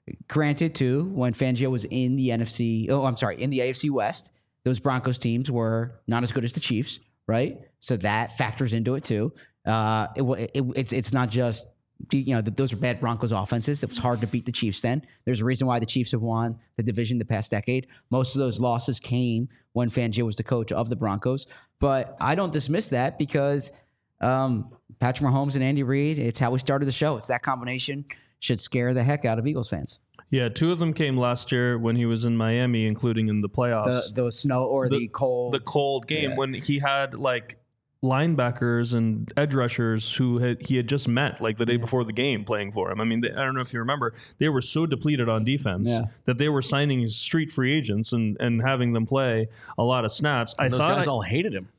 S3: Fangio was in the in the AFC West, those Broncos teams were not as good as the Chiefs, right? So that factors into it too. It's not just, those are bad Broncos offenses. It was hard to beat the Chiefs then. There's a reason why the Chiefs have won the division the past decade. Most of those losses came when Fangio was the coach of the Broncos. But I don't dismiss that because Patrick Mahomes and Andy Reid, it's how we started the show. It's that combination should scare the heck out of Eagles fans.
S2: yeah, 2 of them came last year when he was in Miami, including in the playoffs.
S3: The snow or the cold.
S2: The cold game
S3: Yeah.
S2: when he had like linebackers and edge rushers who he had just met like the day before the game playing for him. I mean, I don't know if you remember, they were so depleted on defense that they were signing street free agents and having them play a lot those
S1: guys all hated him.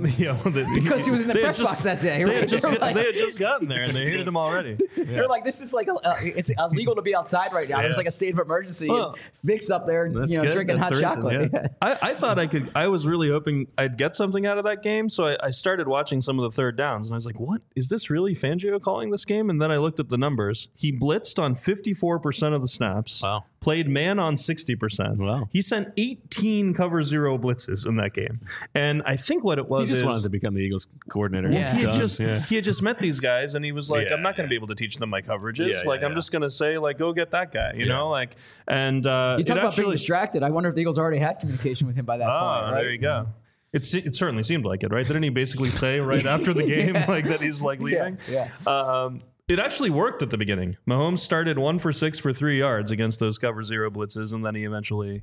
S3: because he was in the press box that day,
S2: They
S3: right?
S2: had just gotten there and they hated him already.
S3: They're like, this is like it's illegal to be outside right now. There's like a state of emergency.
S2: Well,
S3: and Vic's up there,
S2: That's good.
S3: drinking
S2: That's
S3: hot
S2: the reason,
S3: chocolate.
S2: yeah. I thought I was really hoping I'd get something out of that game. So I started watching some of the third downs and I was like, what? Is this really Fangio calling this game? And then I looked at the numbers. He blitzed on 54% of the snaps.
S1: Wow.
S2: Played man on 60%.
S1: Wow.
S2: He sent 18 cover zero blitzes in that game. And I think what it was
S1: He just
S2: is
S1: wanted to become the Eagles coordinator.
S3: Yeah.
S2: he had just met these guys and he was like,
S1: Yeah,
S2: I'm not going to
S1: yeah.
S2: be able to teach them my coverages.
S1: Yeah,
S2: like,
S1: yeah,
S2: I'm just going to say, like, go get that guy, you know? Like, and
S3: You
S2: it
S3: talk about being
S2: actually,
S3: distracted. I wonder if the Eagles already had communication with him by that point, right?
S2: there you go. It certainly seemed like it, right? Didn't he basically say right after the game like that he's like leaving?
S3: Yeah.
S2: It actually worked at the beginning. Mahomes started 1 for 6 for 3 yards against those cover zero blitzes, and then he eventually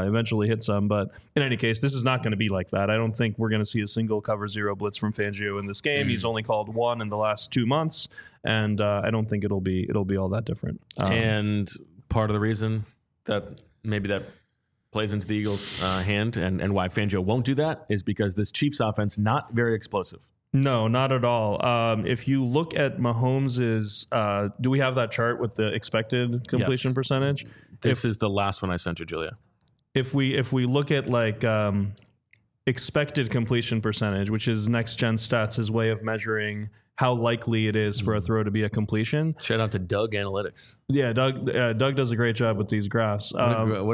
S2: hit some. But in any case, this is not going to be like that. I don't think we're going to see a single cover zero blitz from Fangio in this game. He's only called one in the last 2 months, and I don't think it'll be all that different.
S1: And part of the reason that maybe that plays into the Eagles' hand and why Fangio won't do that is because this Chiefs offense not very explosive.
S2: No, not at all. If you look at Mahomes's, do we have that chart with the expected completion
S1: Yes.
S2: percentage?
S1: This is the last one I sent you, Julia.
S2: If we look at like expected completion percentage, which is Next Gen Stats' way of measuring how likely it is for a throw to be a completion.
S1: Shout out to Doug Analytics.
S2: Yeah, Doug does a great job with these graphs.
S1: What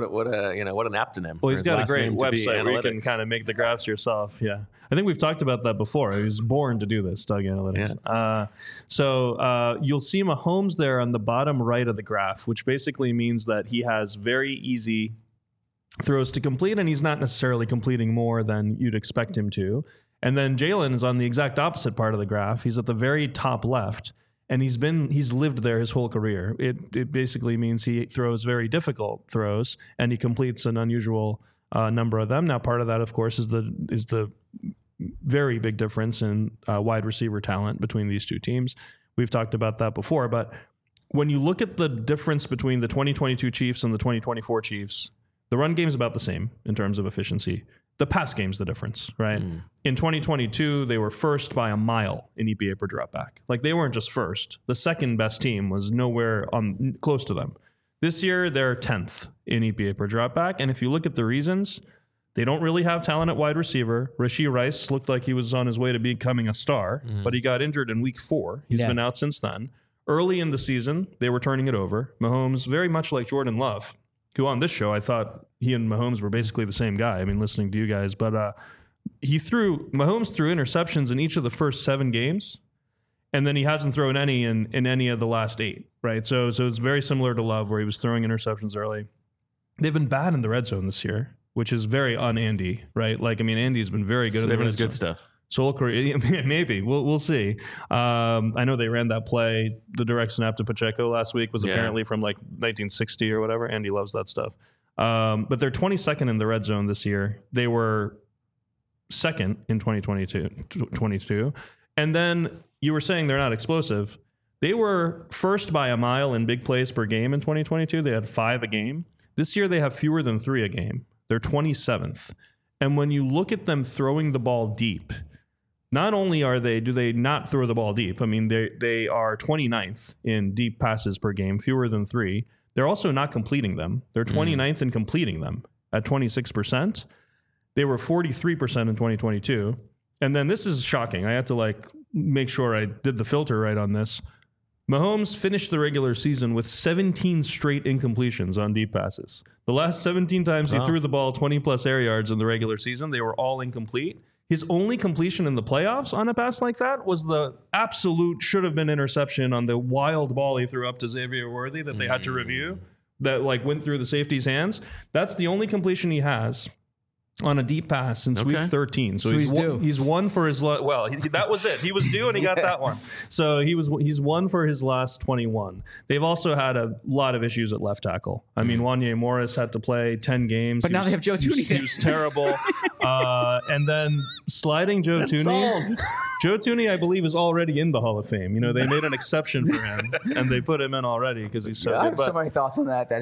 S1: an aptonym.
S2: Well,
S1: for
S2: he's
S1: his
S2: got a
S1: last
S2: great
S1: name to be
S2: website where you can
S1: Analytics.
S2: kind of make the graphs yourself. Yeah. I think we've talked about that before. He was born to do this, Doug Analytics. So you'll see Mahomes there on the bottom right of the graph, which basically means that he has very easy throws to complete, and he's not necessarily completing more than you'd expect him to. And then Jalen is on the exact opposite part of the graph. He's at the very top left, and he's lived there his whole career. It basically means he throws very difficult throws, and he completes an unusual number of them. Now, part of that, of course, is the very big difference in wide receiver talent between these two teams. We've talked about that before, but when you look at the difference between the 2022 Chiefs and the 2024 Chiefs, the run game is about the same in terms of efficiency. The pass game's the difference, right? In 2022, they were first by a mile in EPA per dropback. Like, they weren't just first. The second best team was nowhere close to them. This year, they're 10th in EPA per dropback. And if you look at the reasons, they don't really have talent at wide receiver. Rashee Rice looked like he was on his way to becoming a star, but he got injured in week 4. He's been out since then. Early in the season, they were turning it over. Mahomes, very much like Jordan Love, who on this show, I thought he and Mahomes were basically the same guy. I mean, listening to you guys. But Mahomes threw interceptions in each of the first 7 games, and then he hasn't thrown any in any of the last 8, right? So it's very similar to Love, where he was throwing interceptions early. They've been bad in the red zone this year, which is very un-Andy, right? Like, I mean, Andy's been very good at the red zone.
S1: Good stuff.
S2: Soul career, maybe we'll see. I know they ran that play, the direct snap to Pacheco last week was apparently from like 1960 or whatever. Andy loves that stuff. But they're 22nd in the red zone this year. They were second in 2022. And then you were saying they're not explosive. They were first by a mile in big plays per game in 2022. They had 5 a game. This year they have fewer than 3 a game. They're 27th. And when you look at them throwing the ball deep, not only do they not throw the ball deep, I mean, they are 29th in deep passes per game, fewer than 3. They're also not completing them. They're 29th in completing them at 26%. They were 43% in 2022. And then this is shocking. I had to make sure I did the filter right on this. Mahomes finished the regular season with 17 straight incompletions on deep passes. The last 17 times he threw the ball 20-plus air yards in the regular season, they were all incomplete. His only completion in the playoffs on a pass like that was the absolute should-have-been interception on the wild ball he threw up to Xavier Worthy that they had to review that went through the safety's hands. That's the only completion he has on a deep pass since week 13. So he's won for his that was it. He was due and he got that one. So he's won for his last 21. They've also had a lot of issues at left tackle. I mean, Wanya Morris had to play 10 games.
S3: But now they have Joe Thuney.
S2: He was terrible. And then sliding Joe Thuney. Joe Thuney, I believe, is already in the Hall of Fame. You know, they made an exception for him and they put him in already because he's so good.
S3: I have so many thoughts on that.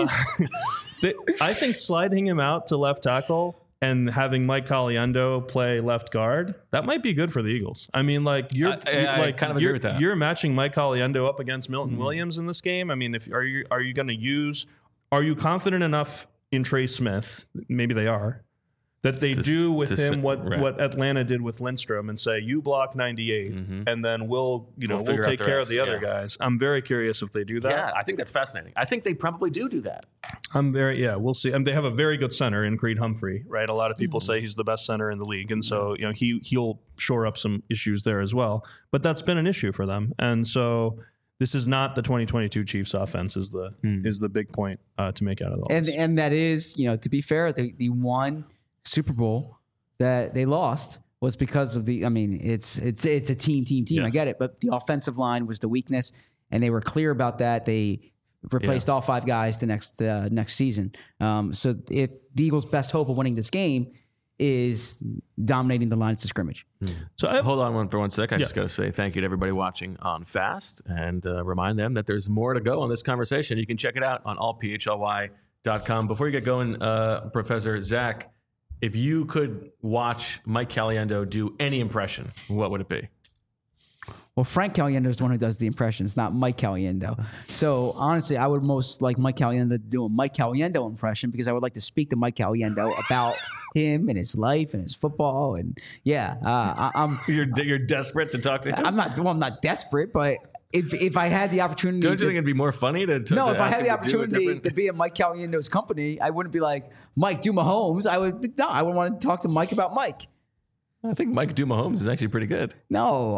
S2: I think sliding him out to left tackle and having Mike Caliendo play left guard, that might be good for the Eagles. I mean, I kind of agree with that. You're matching Mike Caliendo up against Milton Williams in this game. I mean, are you confident enough in Trey Smith? Maybe they are. That they do with him what Atlanta did with Lindstrom and say, you block 98 and then we'll take care of the other guys. I'm very curious if they do that.
S1: Yeah, I think that's fascinating. I think they probably do that.
S2: We'll see. And they have a very good center in Creed Humphrey, right? A lot of people say he's the best center in the league. And so, he'll shore up some issues there as well. But that's been an issue for them. And so this is not the 2022 Chiefs offense is the big point to make out of all this.
S3: And that is, to be fair, the one Super Bowl that they lost was because of it's a team. Yes. I get it, but the offensive line was the weakness, and they were clear about that. They replaced all 5 guys the next season. So if the Eagles' best hope of winning this game is dominating the lines of scrimmage.
S1: So hold on for one sec. I just got to say thank you to everybody watching on Fast and remind them that there's more to go on this conversation. You can check it out on allphly.com. Before you get going, Professor Zach, if you could watch Mike Caliendo do any impression, what would it be?
S3: Well, Frank Caliendo is the one who does the impressions, not Mike Caliendo. So honestly, I would most like Mike Caliendo to do a Mike Caliendo impression because I would like to speak to Mike Caliendo about him and his life and his football. And
S1: You're desperate to talk to him?
S3: I'm not desperate, but if I had the opportunity,
S1: don't you think it'd be more funny to
S3: if I had the opportunity to be in Mike Caliendo's company, I wouldn't be like, Mike, do Mahomes. I would want to talk to Mike about Mike.
S1: I think Mike do Mahomes is actually pretty good.
S3: No,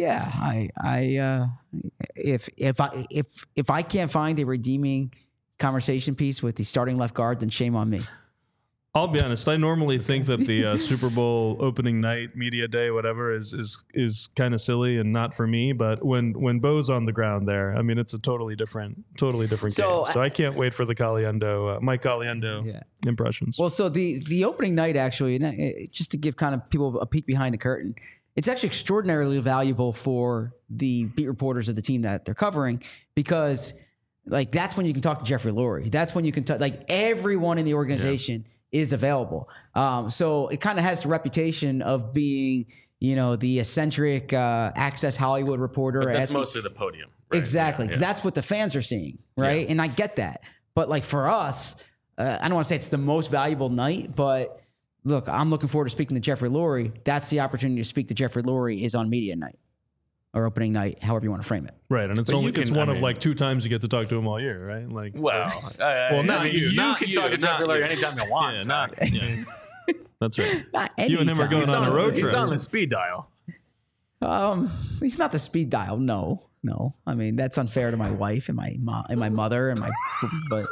S3: if I can't find a redeeming conversation piece with the starting left guard, then shame on me.
S2: I'll be honest. I normally think that the Super Bowl opening night, media day, whatever, is kind of silly and not for me. But when Bo's on the ground there, I mean, it's a totally different game. So I can't wait for the Mike Caliendo impressions.
S3: Well, so the opening night actually, just to give kind of people a peek behind the curtain, it's actually extraordinarily valuable for the beat reporters of the team that they're covering because, that's when you can talk to Jeffrey Lurie. That's when you can talk everyone in the organization. Yeah. Is available. So it kind of has the reputation of being, the eccentric Access Hollywood reporter.
S1: But that's mostly the podium. Right?
S3: Exactly. Yeah. That's what the fans are seeing, right? Yeah. And I get that. But for us, I don't want to say it's the most valuable night, but look, I'm looking forward to speaking to Jeffrey Lurie. That's the opportunity to speak to Jeffrey Lurie is on media night. or opening night, however you want to frame it.
S2: Right, and it's one of like 2 times you get to talk to him all year, right? Like,
S1: well,
S2: not you.
S1: You can talk to Jeffrey Lurie anytime you want.
S2: That's right.
S3: You
S2: and him are going on a road trip.
S1: He's on the speed dial.
S3: He's not the speed dial. No. I mean, that's unfair to my wife and my mom and my mother and my, but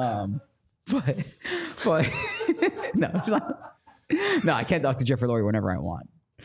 S3: no, it's not. No, I can't talk to Jeffrey Lurie whenever I want.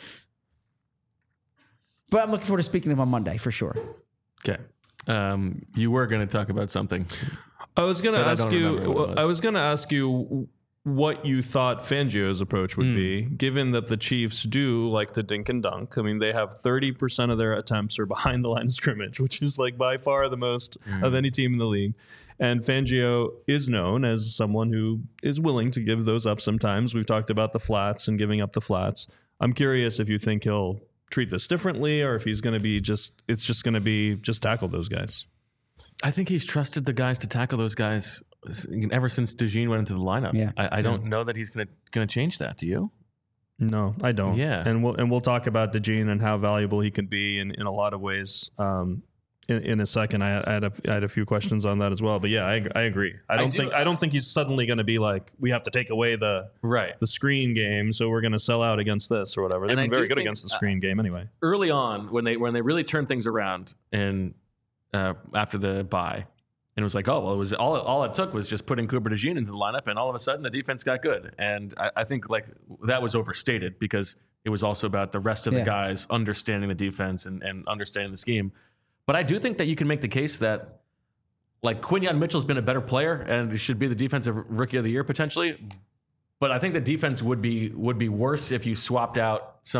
S3: But I'm looking forward to speaking to him on Monday for sure.
S1: Okay. You were going to talk about something.
S2: I was going to ask you what you thought Fangio's approach would be, given that the Chiefs do like to dink and dunk. I mean, they have 30% of their attempts are behind the line of scrimmage, which is like by far the most of any team in the league. And Fangio is known as someone who is willing to give those up sometimes. We've talked about the flats and giving up the flats. I'm curious if you think he'll treat this differently, or if he's going to be it's just going to be tackle those guys.
S1: I think he's trusted the guys to tackle those guys ever since DeJean went into the lineup.
S3: Yeah.
S1: I don't know that he's going to change that. Do you?
S2: No, I don't.
S1: Yeah.
S2: And we'll talk about DeJean and how valuable he can be in a lot of ways. In a second, I had a few questions on that as well. But yeah, I agree. I don't think he's suddenly going to be like, we have to take away the screen game, so we're going to sell out against this or whatever. They've been very good against the screen game anyway.
S1: Early on, when they really turned things around and after the bye, and it was like, it was all it took was just putting Cooper DeJean into the lineup, and all of a sudden the defense got good. And I think like that was overstated because it was also about the rest of the guys understanding the defense and understanding the scheme. But I do think that you can make the case that like Quinyon Mitchell's been a better player and should be the defensive rookie of the year potentially. But I think the defense would be worse if you swapped in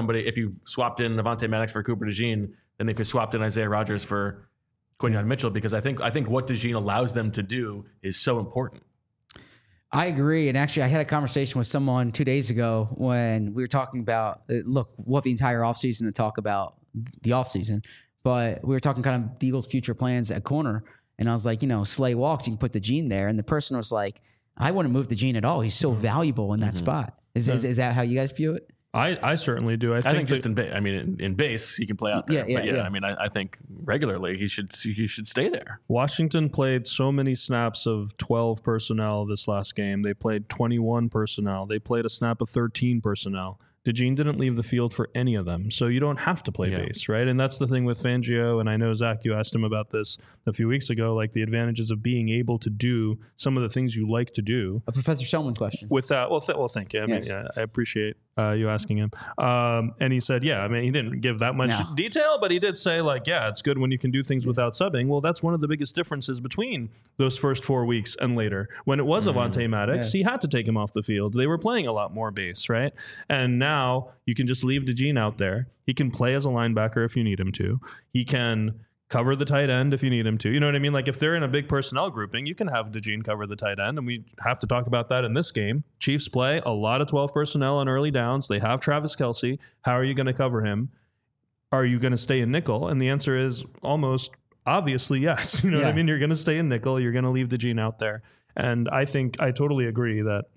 S1: Avonte Maddox for Cooper DeJean than if you swapped in Isaiah Rodgers for Quinyon Mitchell, because I think what DeJean allows them to do is so important.
S3: I agree. And actually, I had a conversation with someone 2 days ago when we were talking about, we'll have the entire offseason to talk about the offseason. But we were talking kind of the Eagles' future plans at corner. And I was like, Slay walks, you can put DeJean there. And the person was like, I wouldn't move DeJean at all. He's so valuable in that spot. Is that how you guys view it?
S2: I certainly do. I think just
S1: in base, he can play out there. Yeah. I mean, I think regularly he should stay there.
S2: Washington played so many snaps of 12 personnel this last game. They played 21 personnel. They played a snap of 13 personnel. DeJean didn't leave the field for any of them, so you don't have to play base, right? And that's the thing with Fangio, and I know, Zach, you asked him about this a few weeks ago, like the advantages of being able to do some of the things you like to do.
S3: A Professor Selman question.
S2: With that, well, thank you. I mean, I appreciate you asking him. And he said, he didn't give that much detail, but he did say, like, it's good when you can do things without subbing. Well, that's one of the biggest differences between those first 4 weeks and later. When it was Avonte Maddox, he had to take him off the field. They were playing a lot more base, right? And now you can just leave DeJean out there. He can play as a linebacker if you need him to. He can cover the tight end if you need him to. You know what I mean? Like if they're in a big personnel grouping, you can have DeJean cover the tight end, and we have to talk about that in this game. Chiefs play a lot of 12 personnel on early downs. They have Travis Kelce. How are you going to cover him? Are you going to stay in nickel? And the answer is almost obviously yes. You know what I mean? You're going to stay in nickel. You're going to leave DeJean out there. And I think I totally agree that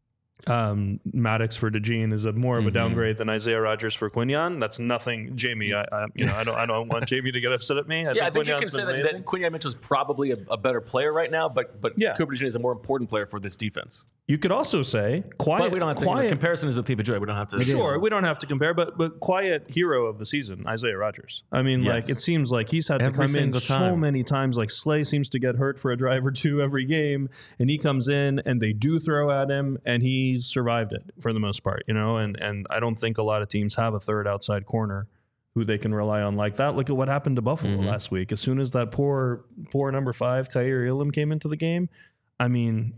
S2: Maddox for DeJean is more of a downgrade than Isaiah Rodgers for Quinyon. That's nothing, Jamie. I don't want Jamie to get upset at me.
S1: I think you can say that Quinyon Mitchell is probably a better player right now, but Cooper DeJean is a more important player for this defense.
S2: You could also say quiet.
S1: But we don't have to. Comparison is a thief of joy. We don't have to.
S2: Sure, we don't have to compare, but quiet hero of the season, Isaiah Rodgers. I mean, like it seems like he's had to come in so many times. Like Slay seems to get hurt for a drive or two every game, and he comes in and they do throw at him, and he's survived it for the most part. And I don't think a lot of teams have a third outside corner who they can rely on like that. Look at what happened to Buffalo last week. As soon as that poor number 5 Khair Elam came into the game, I mean,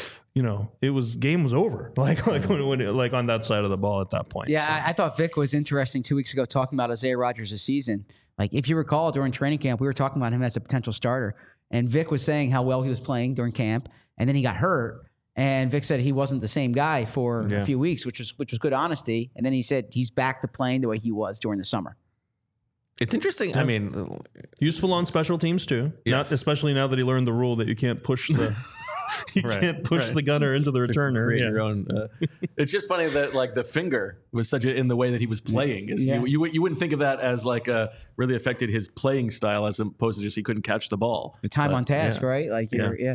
S2: game was over. Like when on that side of the ball at that point.
S3: Yeah, so. I thought Vic was interesting 2 weeks ago talking about Isaiah Rodgers this season. Like if you recall during training camp, we were talking about him as a potential starter, and Vic was saying how well he was playing during camp, and then he got hurt. And Vic said he wasn't the same guy for a few weeks, which was good honesty. And then he said he's back to playing the way he was during the summer.
S1: It's interesting. I mean,
S2: useful on special teams too.
S1: Yes.
S2: Especially now that he learned the rule that you can't push the You can't push the gunner into the returner.
S1: Create your own. It's just funny that like the finger was such in the way that he was playing. You wouldn't think of that as like really affected his playing style as opposed to just he couldn't catch the ball.
S3: The time on task, right? Like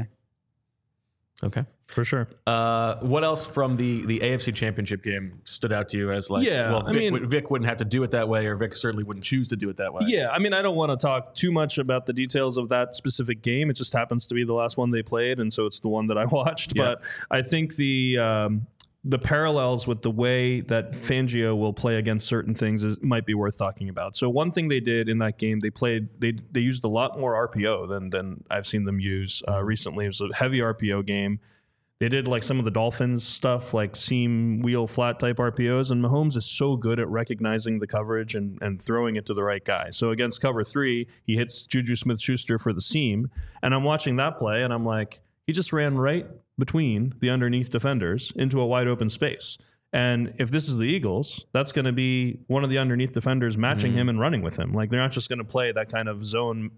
S1: Okay.
S2: For sure.
S1: What else from the AFC Championship game stood out to you as like, Vic wouldn't have to do it that way, or Vic certainly wouldn't choose to do it that way?
S2: Yeah, I mean, I don't want to talk too much about the details of that specific game. It just happens to be the last one they played, and so it's the one that I watched. Yeah. But I think the parallels with the way that Fangio will play against certain things might be worth talking about. So one thing they did in that game, they used a lot more RPO than I've seen them use recently. It was a heavy RPO game. They did like some of the Dolphins stuff, like seam, wheel, flat type RPOs, and Mahomes is so good at recognizing the coverage and throwing it to the right guy. So against cover 3, he hits Juju Smith-Schuster for the seam, and I'm watching that play, and I'm like, he just ran right between the underneath defenders into a wide open space. And if this is the Eagles, that's going to be one of the underneath defenders matching him and running with him. Like they're not just going to play that kind of zone,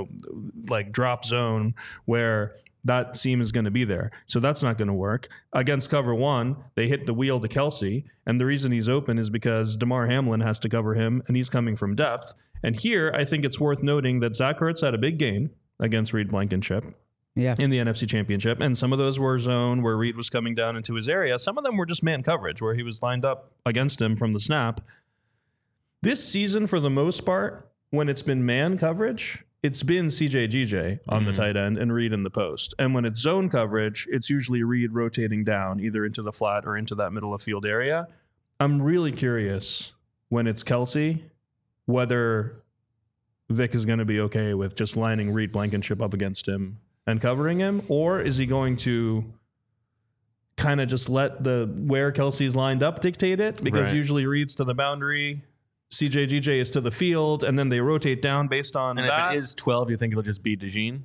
S2: like drop zone where that seam is going to be there. So that's not going to work. Against cover 1, they hit the wheel to Kelce, and the reason he's open is because Damar Hamlin has to cover him, and he's coming from depth. And here, I think it's worth noting that Zach Ertz had a big game against Reed Blankenship in the NFC Championship, and some of those were zone where Reed was coming down into his area. Some of them were just man coverage where he was lined up against him from the snap. This season, for the most part, when it's been man coverage, it's been CJ on the tight end and Reed in the post. And when it's zone coverage, it's usually Reed rotating down either into the flat or into that middle of field area. I'm really curious when it's Kelce, whether Vic is going to be okay with just lining Reed Blankenship up against him and covering him, or is he going to kind of just let where Kelce's lined up dictate it? Because usually Reed's to the boundary, CJ is to the field, and then they rotate down based on that.
S1: And if it is 12, you think it'll just be DeJean?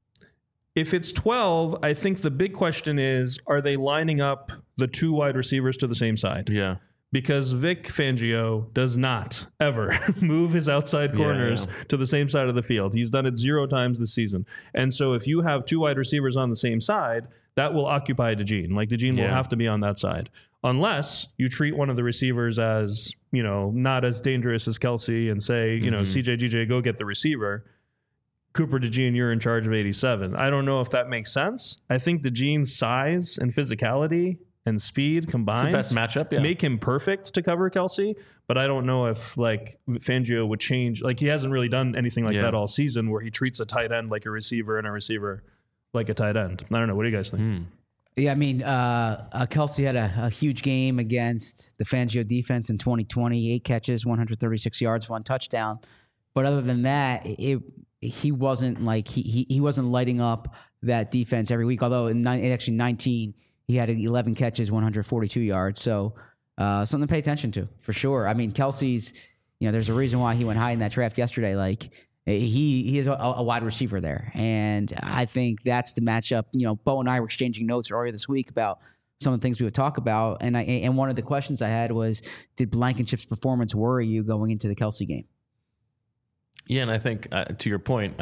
S2: If it's 12, I think the big question is, are they lining up the 2 wide receivers to the same side?
S1: Yeah.
S2: Because Vic Fangio does not ever move his outside corners to the same side of the field. He's done it 0 times this season. And so if you have 2 wide receivers on the same side, that will occupy DeJean. Like DeJean will have to be on that side. Unless you treat one of the receivers as, not as dangerous as Kelce and say, CJ, go get the receiver. Cooper DeJean, you're in charge of 87. I don't know if that makes sense. I think DeJean's size and physicality and speed combined
S1: best matchup,
S2: make him perfect to cover Kelce. But I don't know if like Fangio would change. Like he hasn't really done anything like that all season where he treats a tight end like a receiver and a receiver like a tight end. I don't know. What do you guys think?
S3: Yeah, I mean, Kelce had a huge game against the Fangio defense in 2020, 8 catches, 136 yards, 1 touchdown. But other than that, he wasn't like he wasn't lighting up that defense every week. Although in 19, he had 11 catches, 142 yards. So something to pay attention to for sure. I mean, Kelce's, there's a reason why he went high in that draft yesterday. Like he is a wide receiver there. And I think that's the matchup. Bo and I were exchanging notes earlier this week about some of the things we would talk about. And one of the questions I had was, did Blankenship's performance worry you going into the Kelce game?
S1: Yeah, and I think to your point,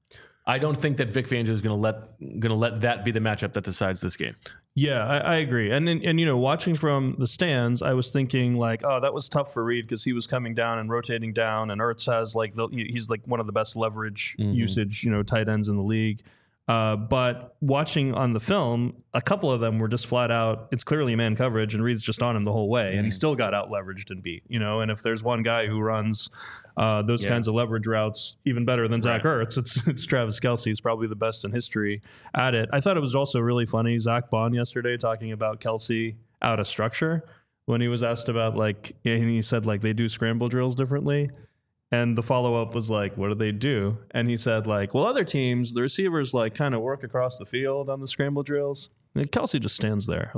S1: I don't think that Vic Fangio is going to let that be the matchup that decides this game.
S2: Yeah, I agree. And watching from the stands, I was thinking like, oh, that was tough for Reed because he was coming down and rotating down, and Ertz has he's like one of the best leverage usage tight ends in the league. But watching on the film, a couple of them were just flat out, it's clearly man coverage, and Reed's just on him the whole way, and he still got out leveraged and beat. And if there's one guy who runs those kinds of leverage routes even better than Zach Ertz, it's Travis Kelce. He's probably the best in history at it. I thought it was also really funny, Zach Bond yesterday talking about Kelce out of structure when he was asked about and he said they do scramble drills differently. And the follow-up was what do they do? And he said other teams, the receivers kind of work across the field on the scramble drills. And Kelce just stands there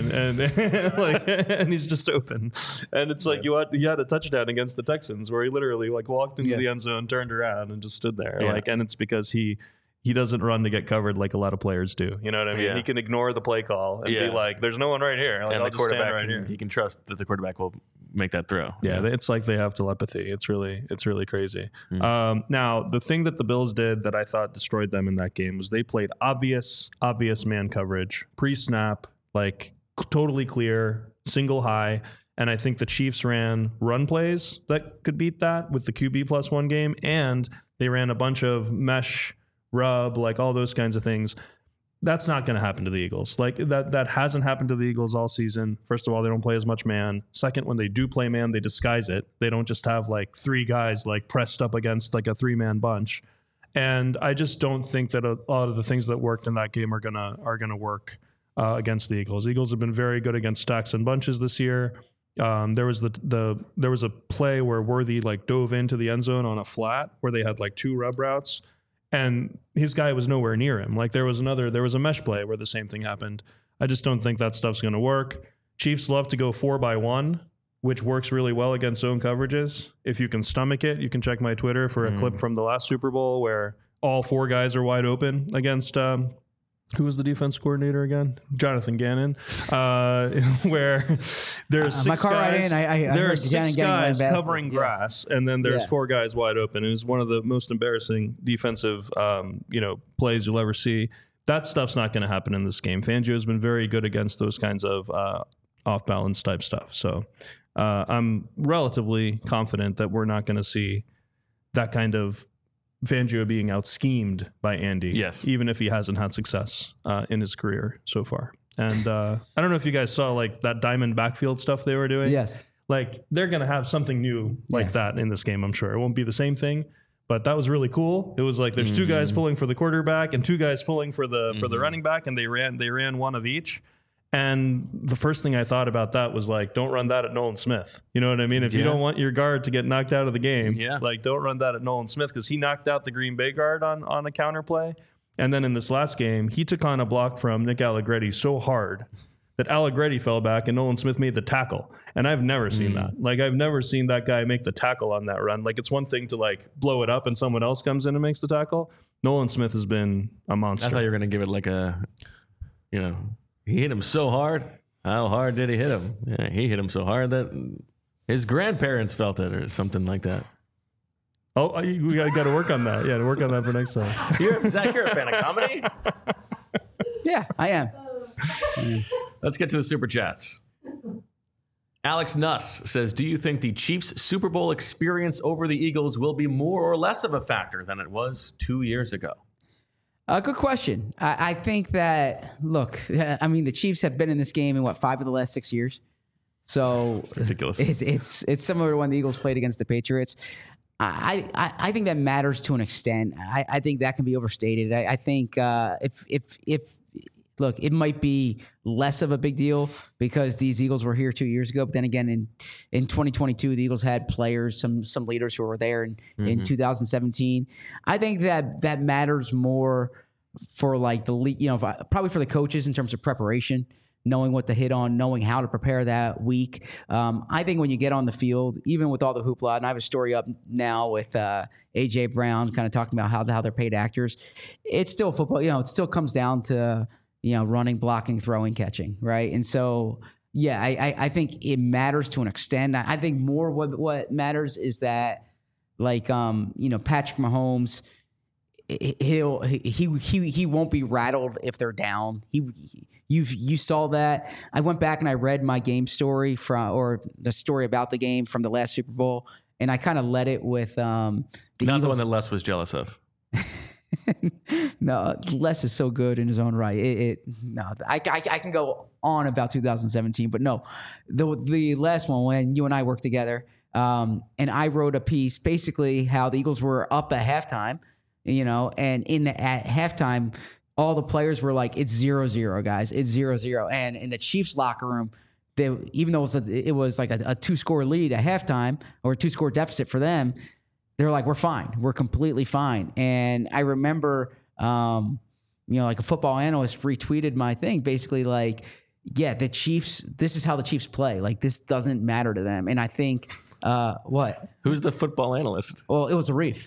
S2: and he's just open. And it's he had a touchdown against the Texans where he literally walked into the end zone, turned around and just stood there. And it's because he doesn't run to get covered like a lot of players do. You know what I mean? He can ignore the play call and be there's no one right here.
S1: And the quarterback, he can trust that the quarterback will make that throw.
S2: Yeah, it's like they have telepathy. It's really crazy. Now, the thing that the Bills did that I thought destroyed them in that game was they played obvious man coverage pre-snap, like totally clear, single high. And I think the Chiefs ran run plays that could beat that with the QB +1 game, and they ran a bunch of mesh, rub, like all those kinds of things. That's not going to happen to the Eagles. Like that hasn't happened to the Eagles all season. First of all, they don't play as much man. Second, when they do play man, they disguise it. They don't just have like three guys like pressed up against like a 3-man bunch. And I just don't think that a lot of the things that worked in that game are gonna work against the Eagles. Eagles have been very good against stacks and bunches this year. There was a play where Worthy like dove into the end zone on a flat where they had like 2 rub routes. And his guy was nowhere near him. Like there was a mesh play where the same thing happened. I just don't think that stuff's going to work. Chiefs love to go 4-by-1, which works really well against zone coverages. If you can stomach it, you can check my Twitter for a clip from the last Super Bowl where all 4 guys are wide open against who was the defense coordinator again? Jonathan Gannon. Where there's 6
S3: my car
S2: guys.
S3: Ride in, I
S2: there are
S3: heard
S2: 6 guys covering grass, and then there's 4 guys wide open. It was one of the most embarrassing defensive, plays you'll ever see. That stuff's not going to happen in this game. Fangio has been very good against those kinds of off balance type stuff. So I'm relatively confident that we're not going to see that kind of Fangio being out-schemed by Andy,
S1: yes,
S2: even if he hasn't had success in his career so far. And I don't know if you guys saw like that diamond backfield stuff they were doing.
S3: Yes.
S2: Like they're going to have something new like that in this game, I'm sure. It won't be the same thing, but that was really cool. It was like there's 2 guys pulling for the quarterback and 2 guys pulling for the running back, and they ran one of each. And the first thing I thought about that was like, don't run that at Nolan Smith. You know what I mean? If you don't want your guard to get knocked out of the game, like don't run that at Nolan Smith, because he knocked out the Green Bay guard on a counter play. And then in this last game, he took on a block from Nick Allegretti so hard that Allegretti fell back and Nolan Smith made the tackle. And I've never seen that. Like I've never seen that guy make the tackle on that run. Like it's one thing to like blow it up and someone else comes in and makes the tackle. Nolan Smith has been a monster.
S1: I thought you were going to give it like he hit him so hard. How hard did he hit him? Yeah, he hit him so hard that his grandparents felt it or something like that.
S2: Oh, we got to work on that. Yeah, to work on that for next time.
S1: Zach, you're a fan of comedy?
S3: Yeah, I am.
S1: Let's get to the Super Chats. Alex Nuss says, do you think the Chiefs' Super Bowl experience over the Eagles will be more or less of a factor than it was 2 years ago?
S3: Good question. I think that, look, I mean, the Chiefs have been in this game in 5 of the last 6 years. So
S1: ridiculous.
S3: It's similar to when the Eagles played against the Patriots. I think that matters to an extent. I think that can be overstated. I think if look, it might be less of a big deal because these Eagles were here 2 years ago. But then again, in 2022, the Eagles had players, some leaders who were there in 2017. I think that matters more for like the probably for the coaches in terms of preparation, knowing what to hit on, knowing how to prepare that week. I think when you get on the field, even with all the hoopla, and I have a story up now with A.J. Brown kind of talking about how they're paid actors. It's still football. It still comes down to running, blocking, throwing, catching, right? And so, yeah, I think it matters to an extent. I think more what matters is that, like, Patrick Mahomes, he won't be rattled if they're down. You saw that. I went back and I read my game story or the story about the game from the last Super Bowl, and I kind of led it with
S1: not
S3: Eagles.
S1: The one that Les was jealous of.
S3: No, Les is so good in his own right. I can go on about 2017, but no, the last one when you and I worked together, and I wrote a piece basically how the Eagles were up at halftime, and at halftime, all the players were like, "It's 0-0, guys. It's 0-0," and in the Chiefs locker room, even though it was like a 2-score lead at halftime or a 2-score deficit for them. They're like, we're fine. We're completely fine. And I remember, like a football analyst retweeted my thing, basically like, yeah, the Chiefs, this is how the Chiefs play. Like, this doesn't matter to them. And I think, what?
S1: Who's the football analyst?
S3: Well, it was Arif.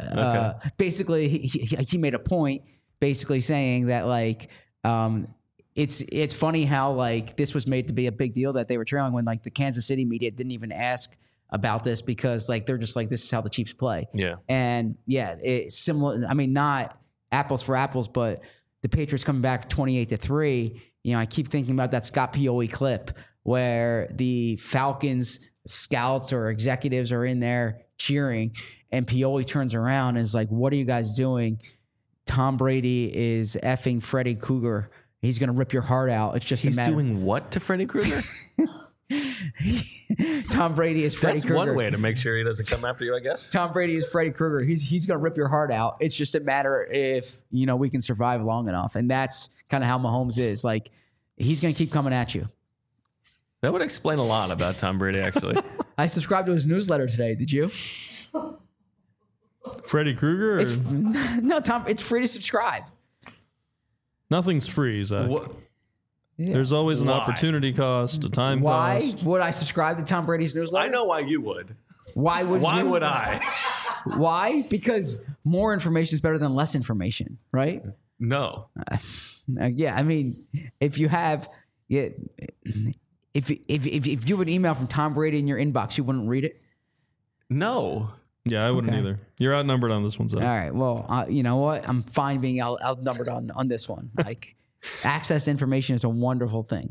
S3: Yeah.
S1: Okay.
S3: Basically, he made a point basically saying that, like, it's funny how like this was made to be a big deal that they were trailing when like the Kansas City media didn't even ask about this because like they're just like, this is how the Chiefs play.
S1: Yeah.
S3: And yeah, it's similar. I mean, not apples for apples, but the Patriots coming back 28-3. You know, I keep thinking about that Scott Pioli clip where the Falcons scouts or executives are in there cheering, and Pioli turns around and is like, "What are you guys doing? Tom Brady is effing Freddy Krueger. He's going to rip your heart out. It's just
S1: He's
S3: a matter."
S1: doing what to Freddy Krueger?
S3: Tom Brady is Freddy Krueger.
S1: That's one way to make sure he doesn't come after you, I guess.
S3: Tom Brady is Freddy Krueger. He's going to rip your heart out. It's just a matter if, you know, we can survive long enough. And that's kind of how Mahomes is. Like, he's going to keep coming at you.
S2: That would explain a lot about Tom Brady, actually.
S3: I subscribed to his newsletter today. Did you?
S2: Freddy Krueger?
S3: No, Tom, it's free to subscribe.
S2: Nothing's free, Zach.
S1: What?
S3: Yeah.
S2: The's always an opportunity cost, a time
S3: Why
S2: cost.
S3: would I subscribe to Tom Brady's newsletter?
S1: I know why you would.
S3: Why would
S1: Why
S3: you?
S1: would I?
S3: Why? Because more information is better than less information, right?
S1: No.
S3: Yeah, I mean, if you have, yeah, if you would email from Tom Brady in your inbox, you wouldn't read it.
S1: No.
S2: Yeah, I wouldn't
S3: Okay.
S2: either. You're outnumbered on this one, Zach.
S3: All right. Well, you know what? I'm fine being outnumbered on this one. Like, access to information is a wonderful thing.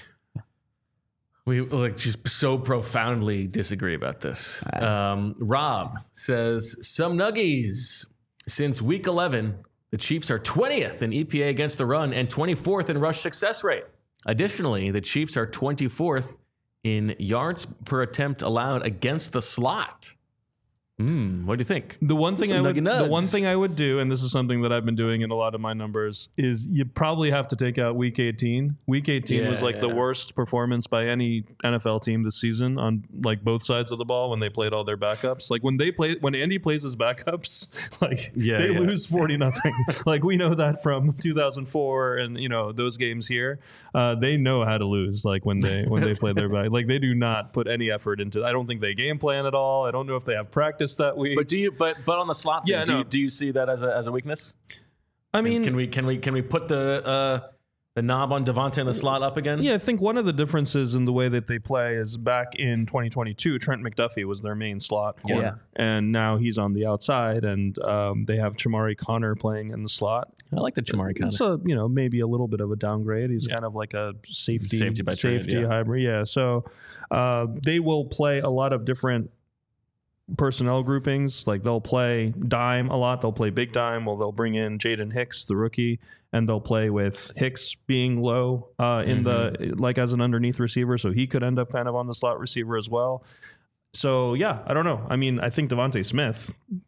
S1: We like just so profoundly disagree about this. Rob says, some nuggies. Since week 11, the Chiefs are 20th in EPA against the run and 24th in rush success rate. Additionally, the Chiefs are 24th in yards per attempt allowed against the slot. What do you think?
S2: The one thing
S1: Some nuggy nugs.
S2: the one thing I would do, and this is something that I've been doing in a lot of my numbers, is you probably have to take out Week 18. Week 18 was like the worst performance by any NFL team this season on like both sides of the ball when they played all their backups. Like when Andy plays his backups, like they lose 40-0. Like we know that from 2004 and you know those games here. They know how to lose. Like when they play their back, like they do not put any effort into. I don't think they game plan at all. I don't know if they have practice that week.
S1: But do you? But on the slot,
S2: Yeah,
S1: thing,
S2: no.
S1: do you see that as a weakness?
S2: I mean,
S1: Can we put the knob on Devontae in the slot up again?
S2: yeah, I think one of the differences in the way that they play is back in 2022, Trent McDuffie was their main slot corner, and now he's on the outside, and they have Chamari Connor playing in the slot.
S1: I like the Chamari Connor.
S2: So maybe a little bit of a downgrade. He's kind of like a safety
S1: by trade, yeah.
S2: hybrid. Yeah, so they will play a lot of different personnel groupings. Like they'll play dime a lot. They'll play big dime. Well, they'll bring in Jaden Hicks, the rookie, and they'll play with Hicks being low in the like as an underneath receiver. So he could end up kind of on the slot receiver as well. So yeah, I don't know. I mean, I think Devontae Smith,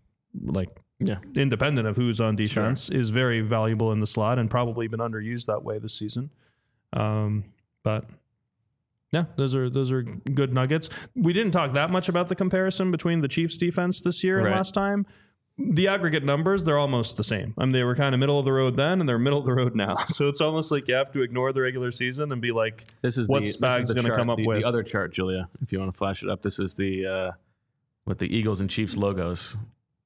S2: independent of who's on defense, is very valuable in the slot and probably been underused that way this season. But yeah, those are good nuggets. We didn't talk that much about the comparison between the Chiefs defense this year and last time. The aggregate numbers, they're almost the same. I mean, they were kind of middle of the road then, and they're middle of the road now. So it's almost like you have to ignore the regular season and be like, what's Spags going to come up with?
S1: The other chart, Julia, if you want to flash it up. This is the with the Eagles and Chiefs logos.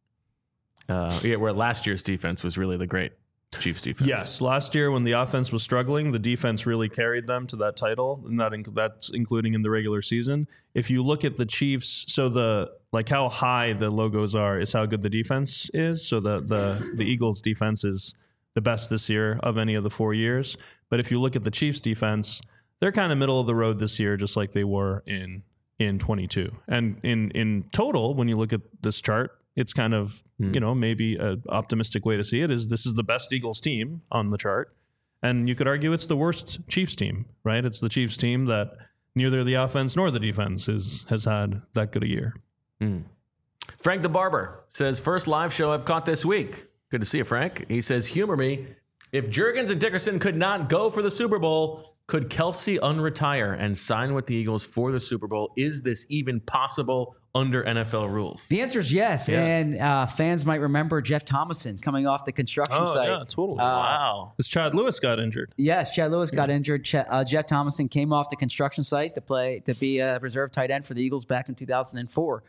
S1: Where last year's defense was really the great Chiefs defense.
S2: Yes, last year when the offense was struggling, the defense really carried them to that title, and that's including in the regular season. If you look at the Chiefs, so how high the logos are is how good the defense is. So the Eagles defense is the best this year of any of the 4 years. But if you look at the Chiefs defense, they're kind of middle of the road this year, just like they were in 22. And in total, when you look at this chart, it's kind of, maybe an optimistic way to see it is this is the best Eagles team on the chart. And you could argue it's the worst Chiefs team, right? It's the Chiefs team that neither the offense nor the defense has had that good a year.
S1: Frank the Barber says, first live show I've caught this week. Good to see you, Frank. He says, humor me. If Juergens and Dickerson could not go for the Super Bowl, could Kelsey unretire and sign with the Eagles for the Super Bowl? Is this even possible under NFL rules?
S3: The answer is yes. And fans might remember Jeff Thomason coming off the construction site.
S2: Yeah, totally.
S1: Wow.
S2: Because Chad Lewis got injured.
S3: Yes, Chad Lewis got injured. Jeff Thomason came off the construction site to be a reserve tight end for the Eagles back in 2004.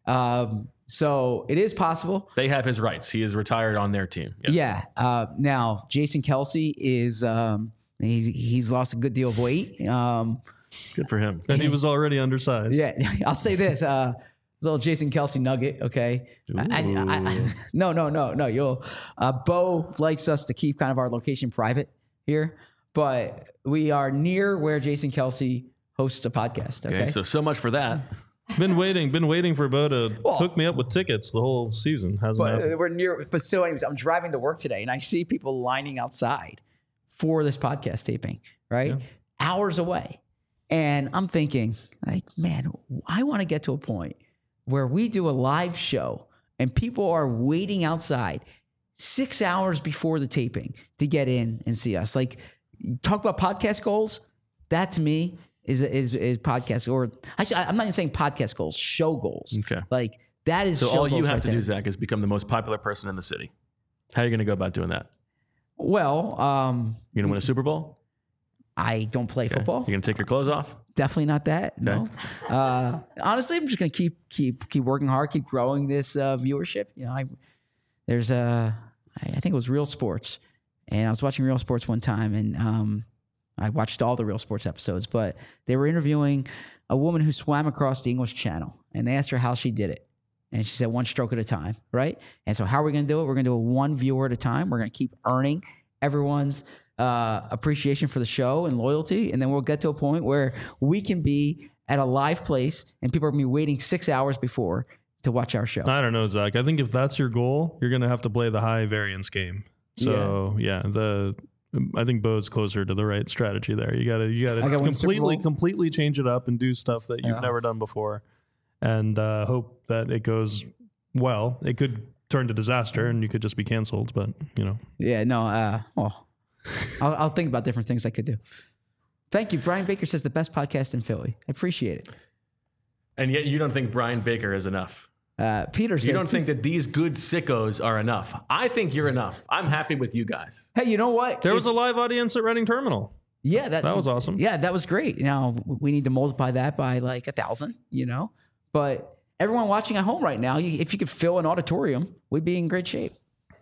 S3: So it is possible.
S1: They have his rights. He is retired on their team. Yes.
S3: Yeah. Now, Jason Kelsey is He's lost a good deal of weight.
S1: Good for him.
S2: And he was already undersized.
S3: Yeah, I'll say this. Little Jason Kelce nugget, okay? No. You'll Bo likes us to keep kind of our location private here, but we are near where Jason Kelce hosts a podcast. Okay,
S1: so much for that.
S2: Been waiting for Bo to hook me up with tickets the whole season.
S3: But we're near. But so, anyways, I'm driving to work today, and I see people lining outside for this podcast taping. Right, hours away, and I'm thinking, like, man, I want to get to a point where we do a live show and people are waiting outside 6 hours before the taping to get in and see us. Like, talk about podcast goals. That to me is podcast, or actually, I'm not even saying podcast goals, show goals.
S1: Okay.
S3: Like, that is
S1: so
S3: show
S1: all you
S3: goals
S1: have
S3: right
S1: to
S3: there.
S1: do, Zach, is become the most popular person in the city. How are you going to go about doing that?
S3: Well,
S1: you're going to win a Super Bowl?
S3: I don't play football.
S1: You're going to take your clothes off?
S3: Definitely not that. No. Honestly, I'm just going to keep working hard, keep growing this viewership. You know, I think it was Real Sports, and I was watching Real Sports one time, and I watched all the Real Sports episodes, but they were interviewing a woman who swam across the English Channel, and they asked her how she did it. And she said, one stroke at a time, right? And so how are we going to do it? We're going to do it one viewer at a time. We're going to keep earning everyone's appreciation for the show and loyalty. And then we'll get to a point where we can be at a live place and people are going to be waiting 6 hours before to watch our show.
S2: I don't know, Zach. I think if that's your goal, you're going to have to play the high variance game. So I think Bo's closer to the right strategy there. You got to completely change it up and do stuff that you've never done before, and hope that it goes well. It could turn to disaster, and you could just be canceled. But I'll think about different things I could do. Thank you. Brian Baker says the best podcast in Philly. I appreciate it.
S1: And yet you don't think Brian Baker is enough.
S3: Peter says,
S1: you don't think that these good sickos are enough. I think you're enough. I'm happy with you guys.
S3: Hey, you know what?
S2: There was a live audience at Reading Terminal.
S3: Yeah,
S2: that was awesome.
S3: Yeah, that was great. Now we need to multiply that by like 1,000, but everyone watching at home right now, if you could fill an auditorium, we'd be in great shape.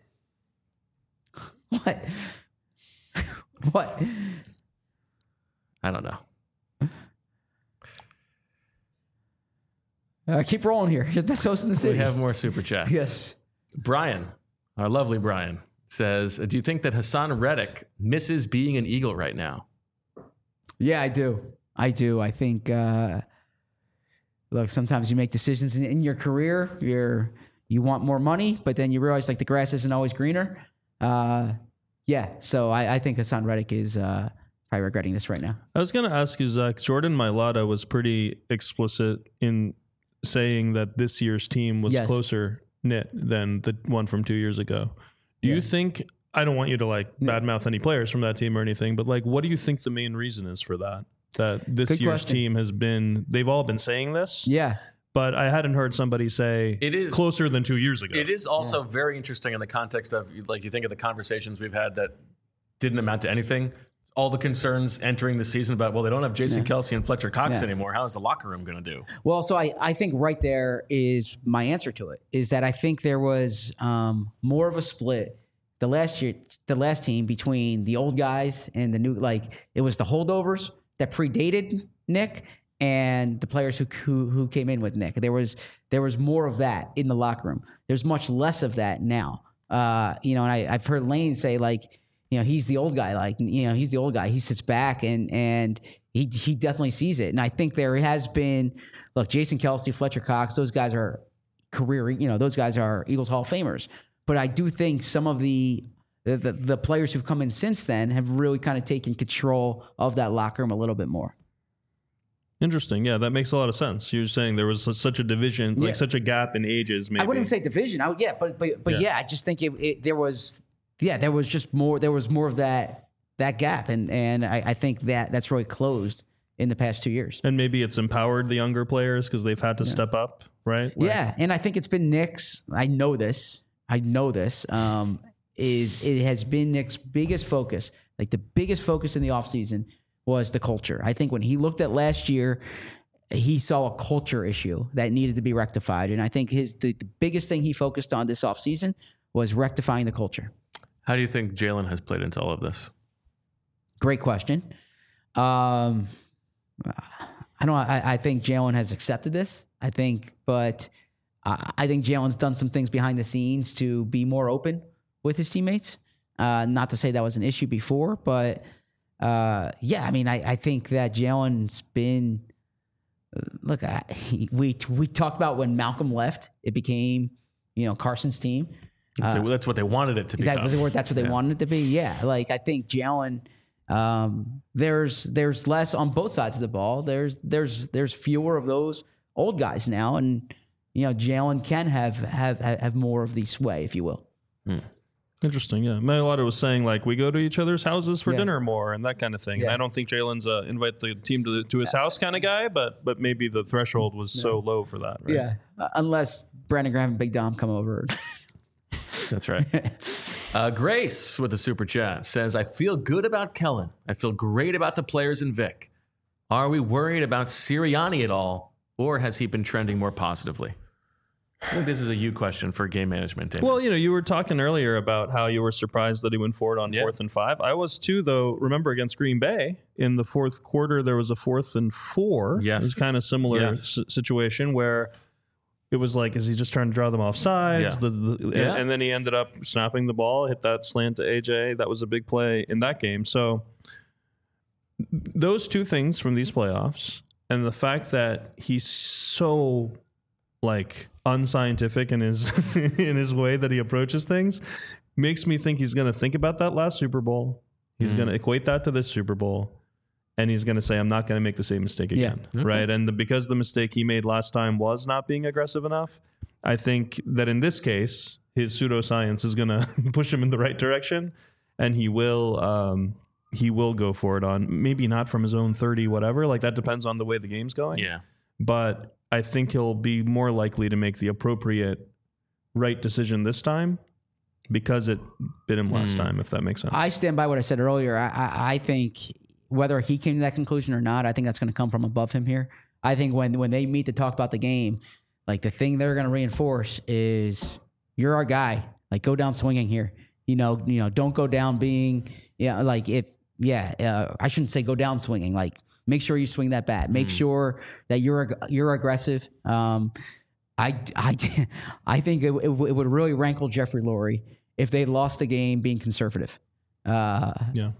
S3: What? What?
S1: I don't know.
S3: Keep rolling here. You're the best host in the city.
S1: We have more super chats.
S3: Yes.
S1: Brian, our lovely Brian, says, do you think that Hassan Reddick misses being an Eagle right now?
S3: Yeah, I do. I think, look, sometimes you make decisions in your career. You want more money, but then you realize like the grass isn't always greener. So I think Hassan Reddick is probably regretting this right now.
S2: I was going to ask you, Zach, Jordan Mailata was pretty explicit in saying that this year's team was closer knit than the one from 2 years ago. Do you think, I don't want you to badmouth any players from that team or anything, but what do you think the main reason is for that? That this
S3: Good
S2: year's
S3: question.
S2: team has been, they've all been saying this.
S3: Yeah.
S2: But I hadn't heard somebody say
S1: it is
S2: closer than 2 years ago.
S1: It is also very interesting in the context of, you think of the conversations we've had that didn't amount to anything. All the concerns entering the season about, they don't have Jason Kelce and Fletcher Cox anymore. How is the locker room going to do?
S3: Well, so I think right there is my answer to it, is that I think there was more of a split the last team between the old guys and the new, it was the holdovers that predated Nick and the players who came in with Nick. There was more of that in the locker room. There's much less of that now. And I've heard Lane say he's the old guy. He's the old guy. He sits back and he definitely sees it. And I think there has been, Jason Kelce, Fletcher Cox, those guys are those guys are Eagles Hall of Famers. But I do think some of the players who've come in since then have really kind of taken control of that locker room a little bit more.
S2: Interesting. Yeah, that makes a lot of sense. You're saying there was such a division, such a gap in ages. Maybe
S3: I wouldn't even say division. I just think there was more of that gap, and I think that's really closed in the past 2 years.
S2: And maybe it's empowered the younger players because they've had to step up, right?
S3: Yeah, and I think it's been Nick's. I know this. It has been Nick's biggest focus. The biggest focus in the offseason was the culture. I think when he looked at last year, he saw a culture issue that needed to be rectified. And I think the biggest thing he focused on this offseason was rectifying the culture.
S1: How do you think Jalen has played into all of this?
S3: Great question. I think Jalen has accepted this. I think Jalen's done some things behind the scenes to be more open with his teammates. Not to say that was an issue before, but I think that Jalen's been. Look, we talked about when Malcolm left, it became Carson's team.
S1: That's what they wanted it to be.
S3: That's what they wanted it to be. Yeah, like I think Jalen. There's less on both sides of the ball. There's fewer of those old guys now, and Jalen can have more of the sway, if you will.
S2: Interesting, yeah. Mailata was saying like we go to each other's houses for dinner more and that kind of thing.
S3: Yeah.
S2: And I don't think Jalen's invite the team to his house kind of guy, but maybe the threshold was so low for that, right?
S3: Yeah, unless Brandon Graham and Big Dom come over.
S1: That's right. Grace with the super chat says, I feel good about Kellen. I feel great about the players in Vic. Are we worried about Sirianni at all, or has he been trending more positively? I think this is a you question for game management. David.
S2: Well, you were talking earlier about how you were surprised that he went for it on 4th and 5. I was too, though. Remember against Green Bay in the fourth quarter, there was a 4th and 4.
S1: Yes.
S2: It was kind of similar situation where it was like, is he just trying to draw them off sides?
S1: Yeah.
S2: And then he ended up snapping the ball, hit that slant to AJ. That was a big play in that game. So those two things from these playoffs and the fact that he's so unscientific in his in his way that he approaches things makes me think he's going to think about that last Super Bowl. He's going to equate that to this Super Bowl. And he's going to say, I'm not going to make the same mistake again.
S3: Yeah.
S2: Okay. Right. And because the mistake he made last time was not being aggressive enough, I think that in this case, his pseudoscience is going to push him in the right direction. And he will go for it on maybe not from his own 30, whatever. Like that depends on the way the game's going.
S1: Yeah.
S2: But I think he'll be more likely to make the appropriate right decision this time because it bit him last time, if that makes sense.
S3: I stand by what I said earlier. I think whether he came to that conclusion or not, I think that's going to come from above him here. I think when they meet to talk about the game, like the thing they're going to reinforce is you're our guy. Like go down swinging here. Don't go down being I shouldn't say go down swinging. Like make sure you swing that bat. Make sure that you're aggressive. I think it would really rankle Jeffrey Lurie if they lost the game being conservative. And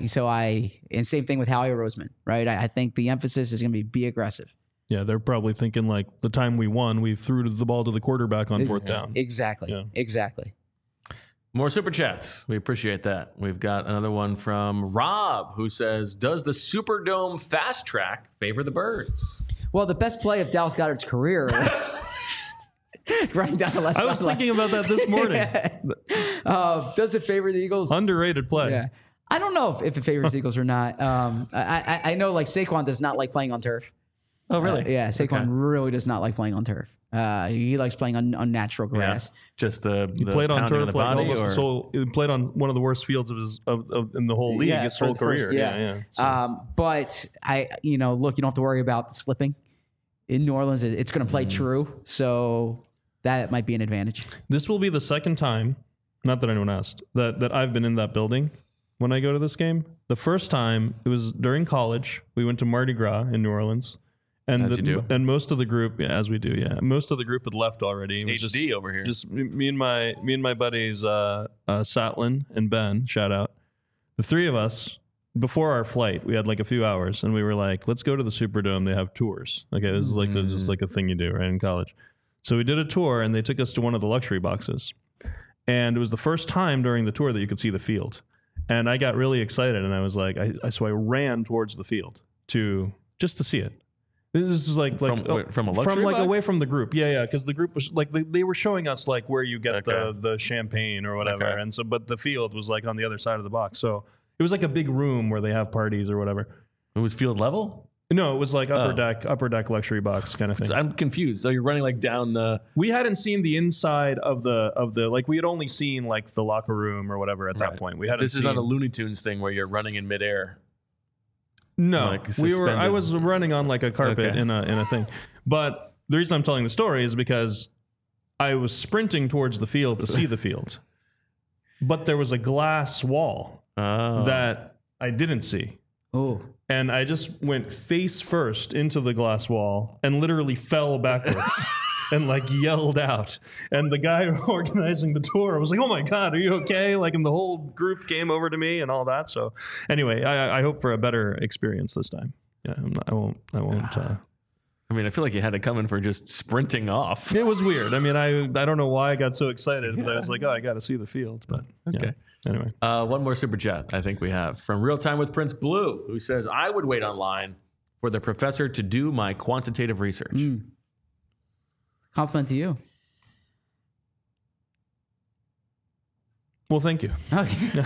S3: same thing with Howie Roseman, right? I think the emphasis is going to be aggressive.
S2: Yeah, they're probably thinking like the time we won, we threw the ball to the quarterback on 4th down.
S3: Exactly.
S2: Yeah.
S3: Exactly.
S1: More super chats. We appreciate that. We've got another one from Rob who says, does the Superdome fast track favor the Birds?
S3: Well, the best play of Dallas Goedert's career was running down the left side.
S2: I was thinking about that this morning.
S3: Does it favor the Eagles?
S2: Underrated play.
S3: Yeah. I don't know if it favors the Eagles or not. I know like Saquon does not like playing on turf.
S1: Oh, really?
S3: Yeah, Saquon really does not like playing on turf. He likes playing on natural grass.
S1: Yeah. Just the
S2: played on turf
S1: the body,
S2: like almost
S1: or?
S2: He played on one of the worst fields of in the whole league his whole career. So.
S3: But look, you don't have to worry about slipping in New Orleans. It's going to play true, so that might be an advantage.
S2: This will be the second time, not that anyone asked, that I've been in that building when I go to this game. The first time it was during college. We went to Mardi Gras in New Orleans. And most of the group, as we do, most of the group had left already. It was
S1: HD over here.
S2: Just me and my buddies, Satlin and Ben. Shout out. The three of us before our flight, we had like a few hours, and we were like, "Let's go to the Superdome. They have tours." Okay, this is like just like a thing you do right in college. So we did a tour, and they took us to one of the luxury boxes, and it was the first time during the tour that you could see the field. And I got really excited, and I was like, so I ran towards the field just to see it. This is like
S1: from a luxury box?
S2: Away from the group. Yeah, because the group was like they were showing us like where you get the champagne or whatever, and so but the field was like on the other side of the box. So it was like a big room where they have parties or whatever.
S1: It was field level?
S2: No, it was like upper deck luxury box kind of thing.
S1: So I'm confused. So you're running like down the.
S2: We hadn't seen the inside of the like we had only seen like the locker room or whatever at that point. We hadn't.
S1: This is not a Looney Tunes thing where you're running in midair.
S2: No, I was running on like a carpet in a thing. But the reason I'm telling the story is because I was sprinting towards the field to see the field, but there was a glass wall that I didn't see.
S3: Oh.
S2: And I just went face first into the glass wall and literally fell backwards and like yelled out. And the guy organizing the tour was like, "Oh my God, are you okay?" Like, and the whole group came over to me and all that. So anyway, I hope for a better experience this time. Yeah, I won't.
S1: I mean, I feel like you had it coming for just sprinting off.
S2: It was weird. I mean, I don't know why I got so excited, but I was like, oh, I got to see the field. But
S1: Okay.
S2: yeah. Anyway.
S1: One more super chat I think we have from Real Time with Prince Blue, who says, I would wait online for the professor to do my quantitative research.
S3: Compliment to you.
S2: Well, thank you.
S3: Okay.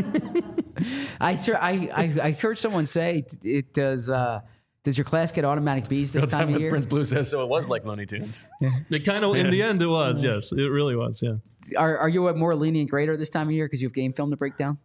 S3: I heard someone say it does. Does your class get automatic B's this
S1: Real
S3: time of
S1: with
S3: year?
S1: Prince Blue says, so it was like Looney Tunes.
S2: It kind of, in the end, it was. Yes, it really was. Yeah.
S3: Are you a more lenient grader this time of year because you have game film to break down?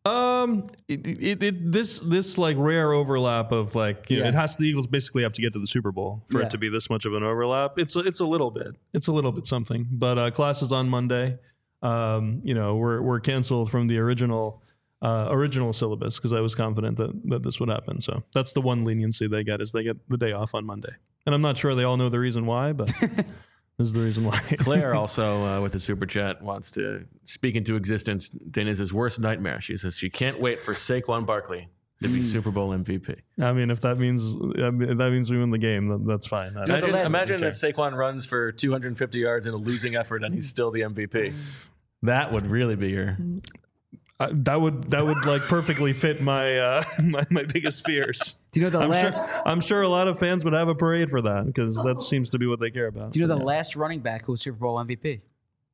S2: This like rare overlap of like, you know, it has the Eagles basically have to get to the Super Bowl for it to be this much of an overlap. It's a little bit something, but class is on Monday. You know, we're canceled from the original syllabus because I was confident that this would happen. So that's the one leniency they get, is they get the day off on Monday. And I'm not sure they all know the reason why, but this is the reason why.
S1: Claire also, with the super chat, wants to speak into existence Dana's worst nightmare. She says she can't wait for Saquon Barkley to be Super Bowl MVP.
S2: I mean, if that means we win the game, that's fine.
S1: Imagine that Saquon runs for 250 yards in a losing effort and he's still the MVP. That would really be your...
S2: That would like perfectly fit my my biggest fears.
S3: Do you know the
S2: I'm sure a lot of fans would have a parade for that because that seems to be what they care about.
S3: Do you know the last running back who was Super Bowl MVP?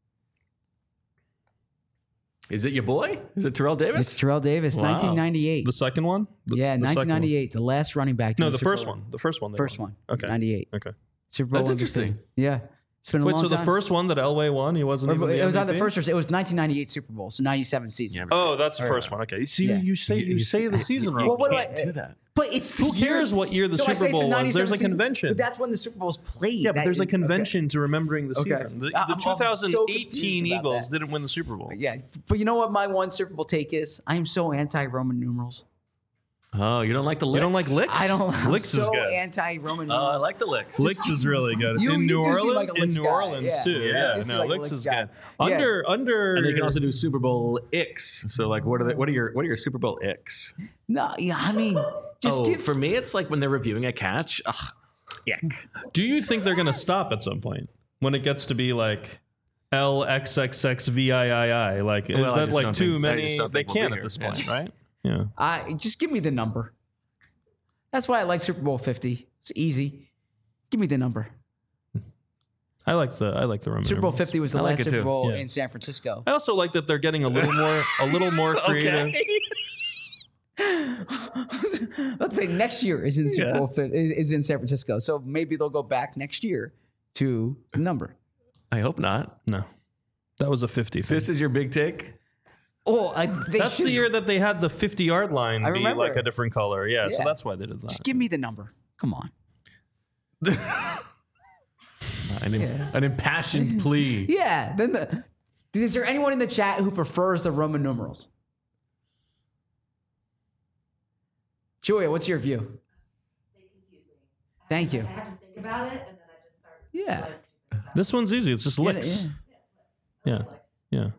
S1: Is it your boy? Is it Terrell Davis?
S3: It's Terrell Davis, 1998.
S2: The second one?
S3: The 1998. The last running back.
S2: No, the first one. The first one.
S3: First one.
S2: Okay.
S3: 98.
S2: Okay.
S3: Super Bowl
S1: That's
S3: MVP.
S1: interesting.
S3: Yeah. It's been a long time.
S2: So the first one that Elway won, he wasn't even the
S3: It was
S2: MVP?
S3: on the first. It was 1998 Super Bowl, so 97 season.
S1: Yeah,
S2: Oh, that's the first one. Okay. See,
S3: Yeah.
S2: you say the season wrong.
S3: Well, what
S1: Can't do that.
S3: But it's
S2: Who cares what year the
S3: So I
S2: Super
S3: say it's
S2: Bowl was? There's a
S3: 97 season,
S2: convention.
S3: But that's when the Super Bowl's played.
S2: Yeah, but there's a
S3: Okay.
S2: convention to remembering the
S3: Okay.
S2: season. The
S3: I'm so
S2: 2018
S3: confused about
S2: Eagles
S3: that.
S2: didn't win the Super Bowl.
S3: Yeah, but you know what my one Super Bowl take is? I am so anti-Roman numerals.
S1: Oh, you don't like the licks?
S2: You don't like licks?
S3: I don't. I'm
S2: Licks is
S3: so
S2: good.
S3: anti-Roman
S1: Oh, I
S3: numerals.
S1: like the licks.
S2: Licks is really good.
S3: You-
S2: in
S3: you
S2: New
S3: do seem
S2: Orleans,
S3: like a Licks
S2: New
S3: guy.
S2: Orleans
S3: Yeah.
S2: too.
S1: Yeah.
S2: Yeah,
S3: You seem
S2: no,
S3: like a
S2: Licks
S3: Licks
S2: is
S3: guy.
S2: good.
S3: Yeah.
S2: Under.
S1: And they can also do Super Bowl icks. So, like, what are your Super Bowl icks?
S3: No, yeah, I mean, just give.
S1: For me, it's like when they're reviewing a catch. Ugh, ick.
S2: Do you think they're gonna stop at some point when it gets to be like LXXXVIII? Like, is
S1: Well, I
S2: that
S1: just
S2: like
S1: don't
S2: too
S1: think- I
S2: many?
S1: just don't
S2: They
S1: think we'll
S2: can
S1: be
S2: at this
S1: here.
S2: point,
S1: Yeah.
S2: right? Yeah.
S3: Just give me the number. That's why I like Super Bowl 50. It's easy. Give me the number.
S2: I like the Roman
S3: Super Bowl
S2: numerals.
S3: 50 was the
S1: I like
S3: last
S1: it
S3: Super
S1: too.
S3: Bowl
S2: Yeah.
S3: in San Francisco.
S2: I also like that they're getting a little more creative.
S3: Let's say next year is in Super Bowl is in San Francisco. So maybe they'll go back next year to the number.
S1: I hope not.
S2: No, that was a 50 thing.
S1: This is your big take?
S3: Oh,
S2: That's the year that they had the 50-yard line
S3: I
S2: be
S3: remember.
S2: like a different color. Yeah, so
S3: Yeah.
S2: that's why they did that.
S3: Just give me the number. Come on.
S1: An impassioned plea.
S3: Yeah. Then is there anyone in the chat who prefers the Roman numerals? Julia, what's your view?
S4: They confuse me.
S3: Thank you.
S4: I have to think about it, and then I just start.
S3: Yeah.
S4: doing stupid stuff.
S2: This one's easy. It's just licks.
S3: Yeah.
S2: Yeah.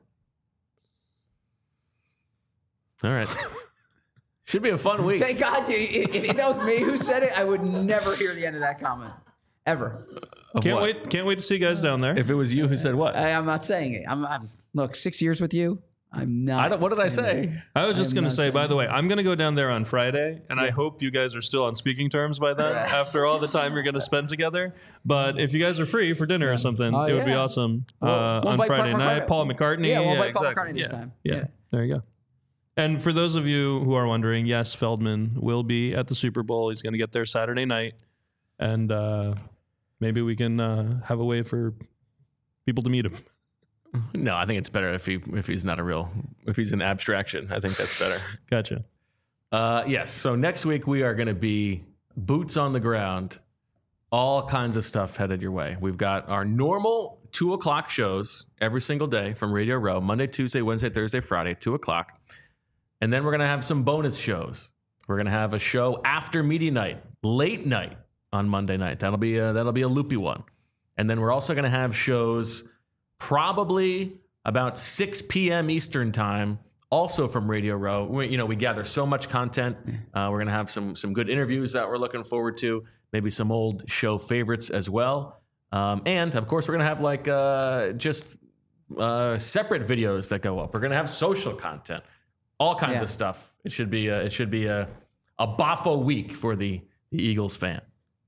S1: All right. Should be a fun week.
S3: Thank God. If that was me who said it, I would never hear the end of that comment. Ever.
S1: Of
S2: Can't
S1: what?
S2: wait to see you guys down there.
S1: If it was you who said what?
S3: I'm not saying it. I'm look, 6 years with you. I'm not.
S1: What did I
S3: saying
S1: say?
S3: that.
S2: I was just
S3: I'm
S2: going to
S3: not
S2: say,
S3: saying
S2: by the
S3: that.
S2: way, I'm going to go down there on Friday, and I hope you guys are still on speaking terms by then after all the time you're going to spend together. But if you guys are free for dinner or something,
S3: Oh,
S2: it would be
S3: yeah.
S2: awesome
S3: We'll
S2: on
S3: invite
S2: Friday night. Paul McCartney.
S3: Yeah, we'll invite Paul
S2: exactly.
S3: McCartney this time.
S2: Yeah.
S3: Yeah.
S2: There you go. And for those of you who are wondering, yes, Feldman will be at the Super Bowl. He's going to get there Saturday night. And maybe we can have a way for people to meet him.
S1: No, I think it's better if he's not if he's an abstraction. I think that's better.
S2: Gotcha.
S1: Yes. So next week we are going to be boots on the ground. All kinds of stuff headed your way. We've got our normal 2:00 shows every single day from Radio Row, Monday, Tuesday, Wednesday, Thursday, Friday, 2:00. And then we're going to have some bonus shows. We're going to have a show after media night, late night on Monday night. That'll be a loopy one. And then we're also going to have shows probably about 6 p.m. Eastern time, also from Radio Row. We gather so much content. We're going to have some good interviews that we're looking forward to, maybe some old show favorites as well. And, of course, we're going to have separate videos that go up. We're going to have social content, all kinds of stuff. It should be a Boffo week for the Eagles fan.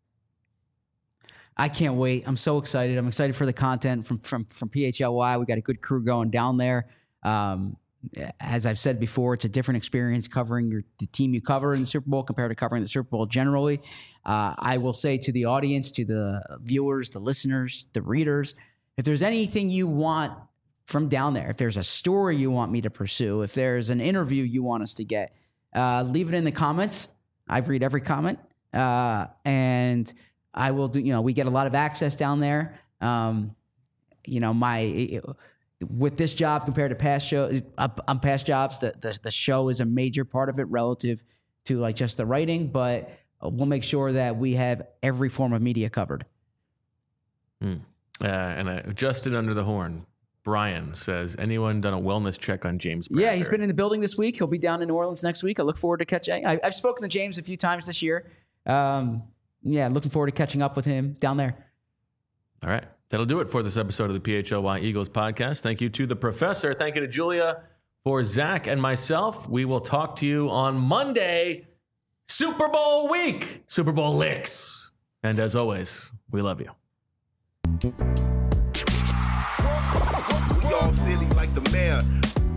S3: I can't wait. I'm so excited. I'm excited for the content from PHLY. We got a good crew going down there. As I've said before, it's a different experience covering the team you cover in the Super Bowl compared to covering the Super Bowl generally. I will say to the audience, to the viewers, the listeners, the readers, if there's anything you want from down there, if there's a story you want me to pursue, if there's an interview you want us to get, leave it in the comments. I read every comment. And I will do, we get a lot of access down there. With this job compared to past shows, past jobs, the show is a major part of it relative to just the writing, but we'll make sure that we have every form of media covered.
S1: And Justin under the horn, Brian says, anyone done a wellness check on James Bradbury?
S3: Yeah, he's been in the building this week. He'll be down in New Orleans next week. I look forward to catching. I've spoken to James a few times this year. Looking forward to catching up with him down there.
S1: All right. That'll do it for this episode of the PHLY Eagles podcast. Thank you to the professor. Thank you to Julia. For Zach and myself, we will talk to you on Monday, Super Bowl week, Super Bowl licks. And as always, we love you.
S5: We all silly like the mayor.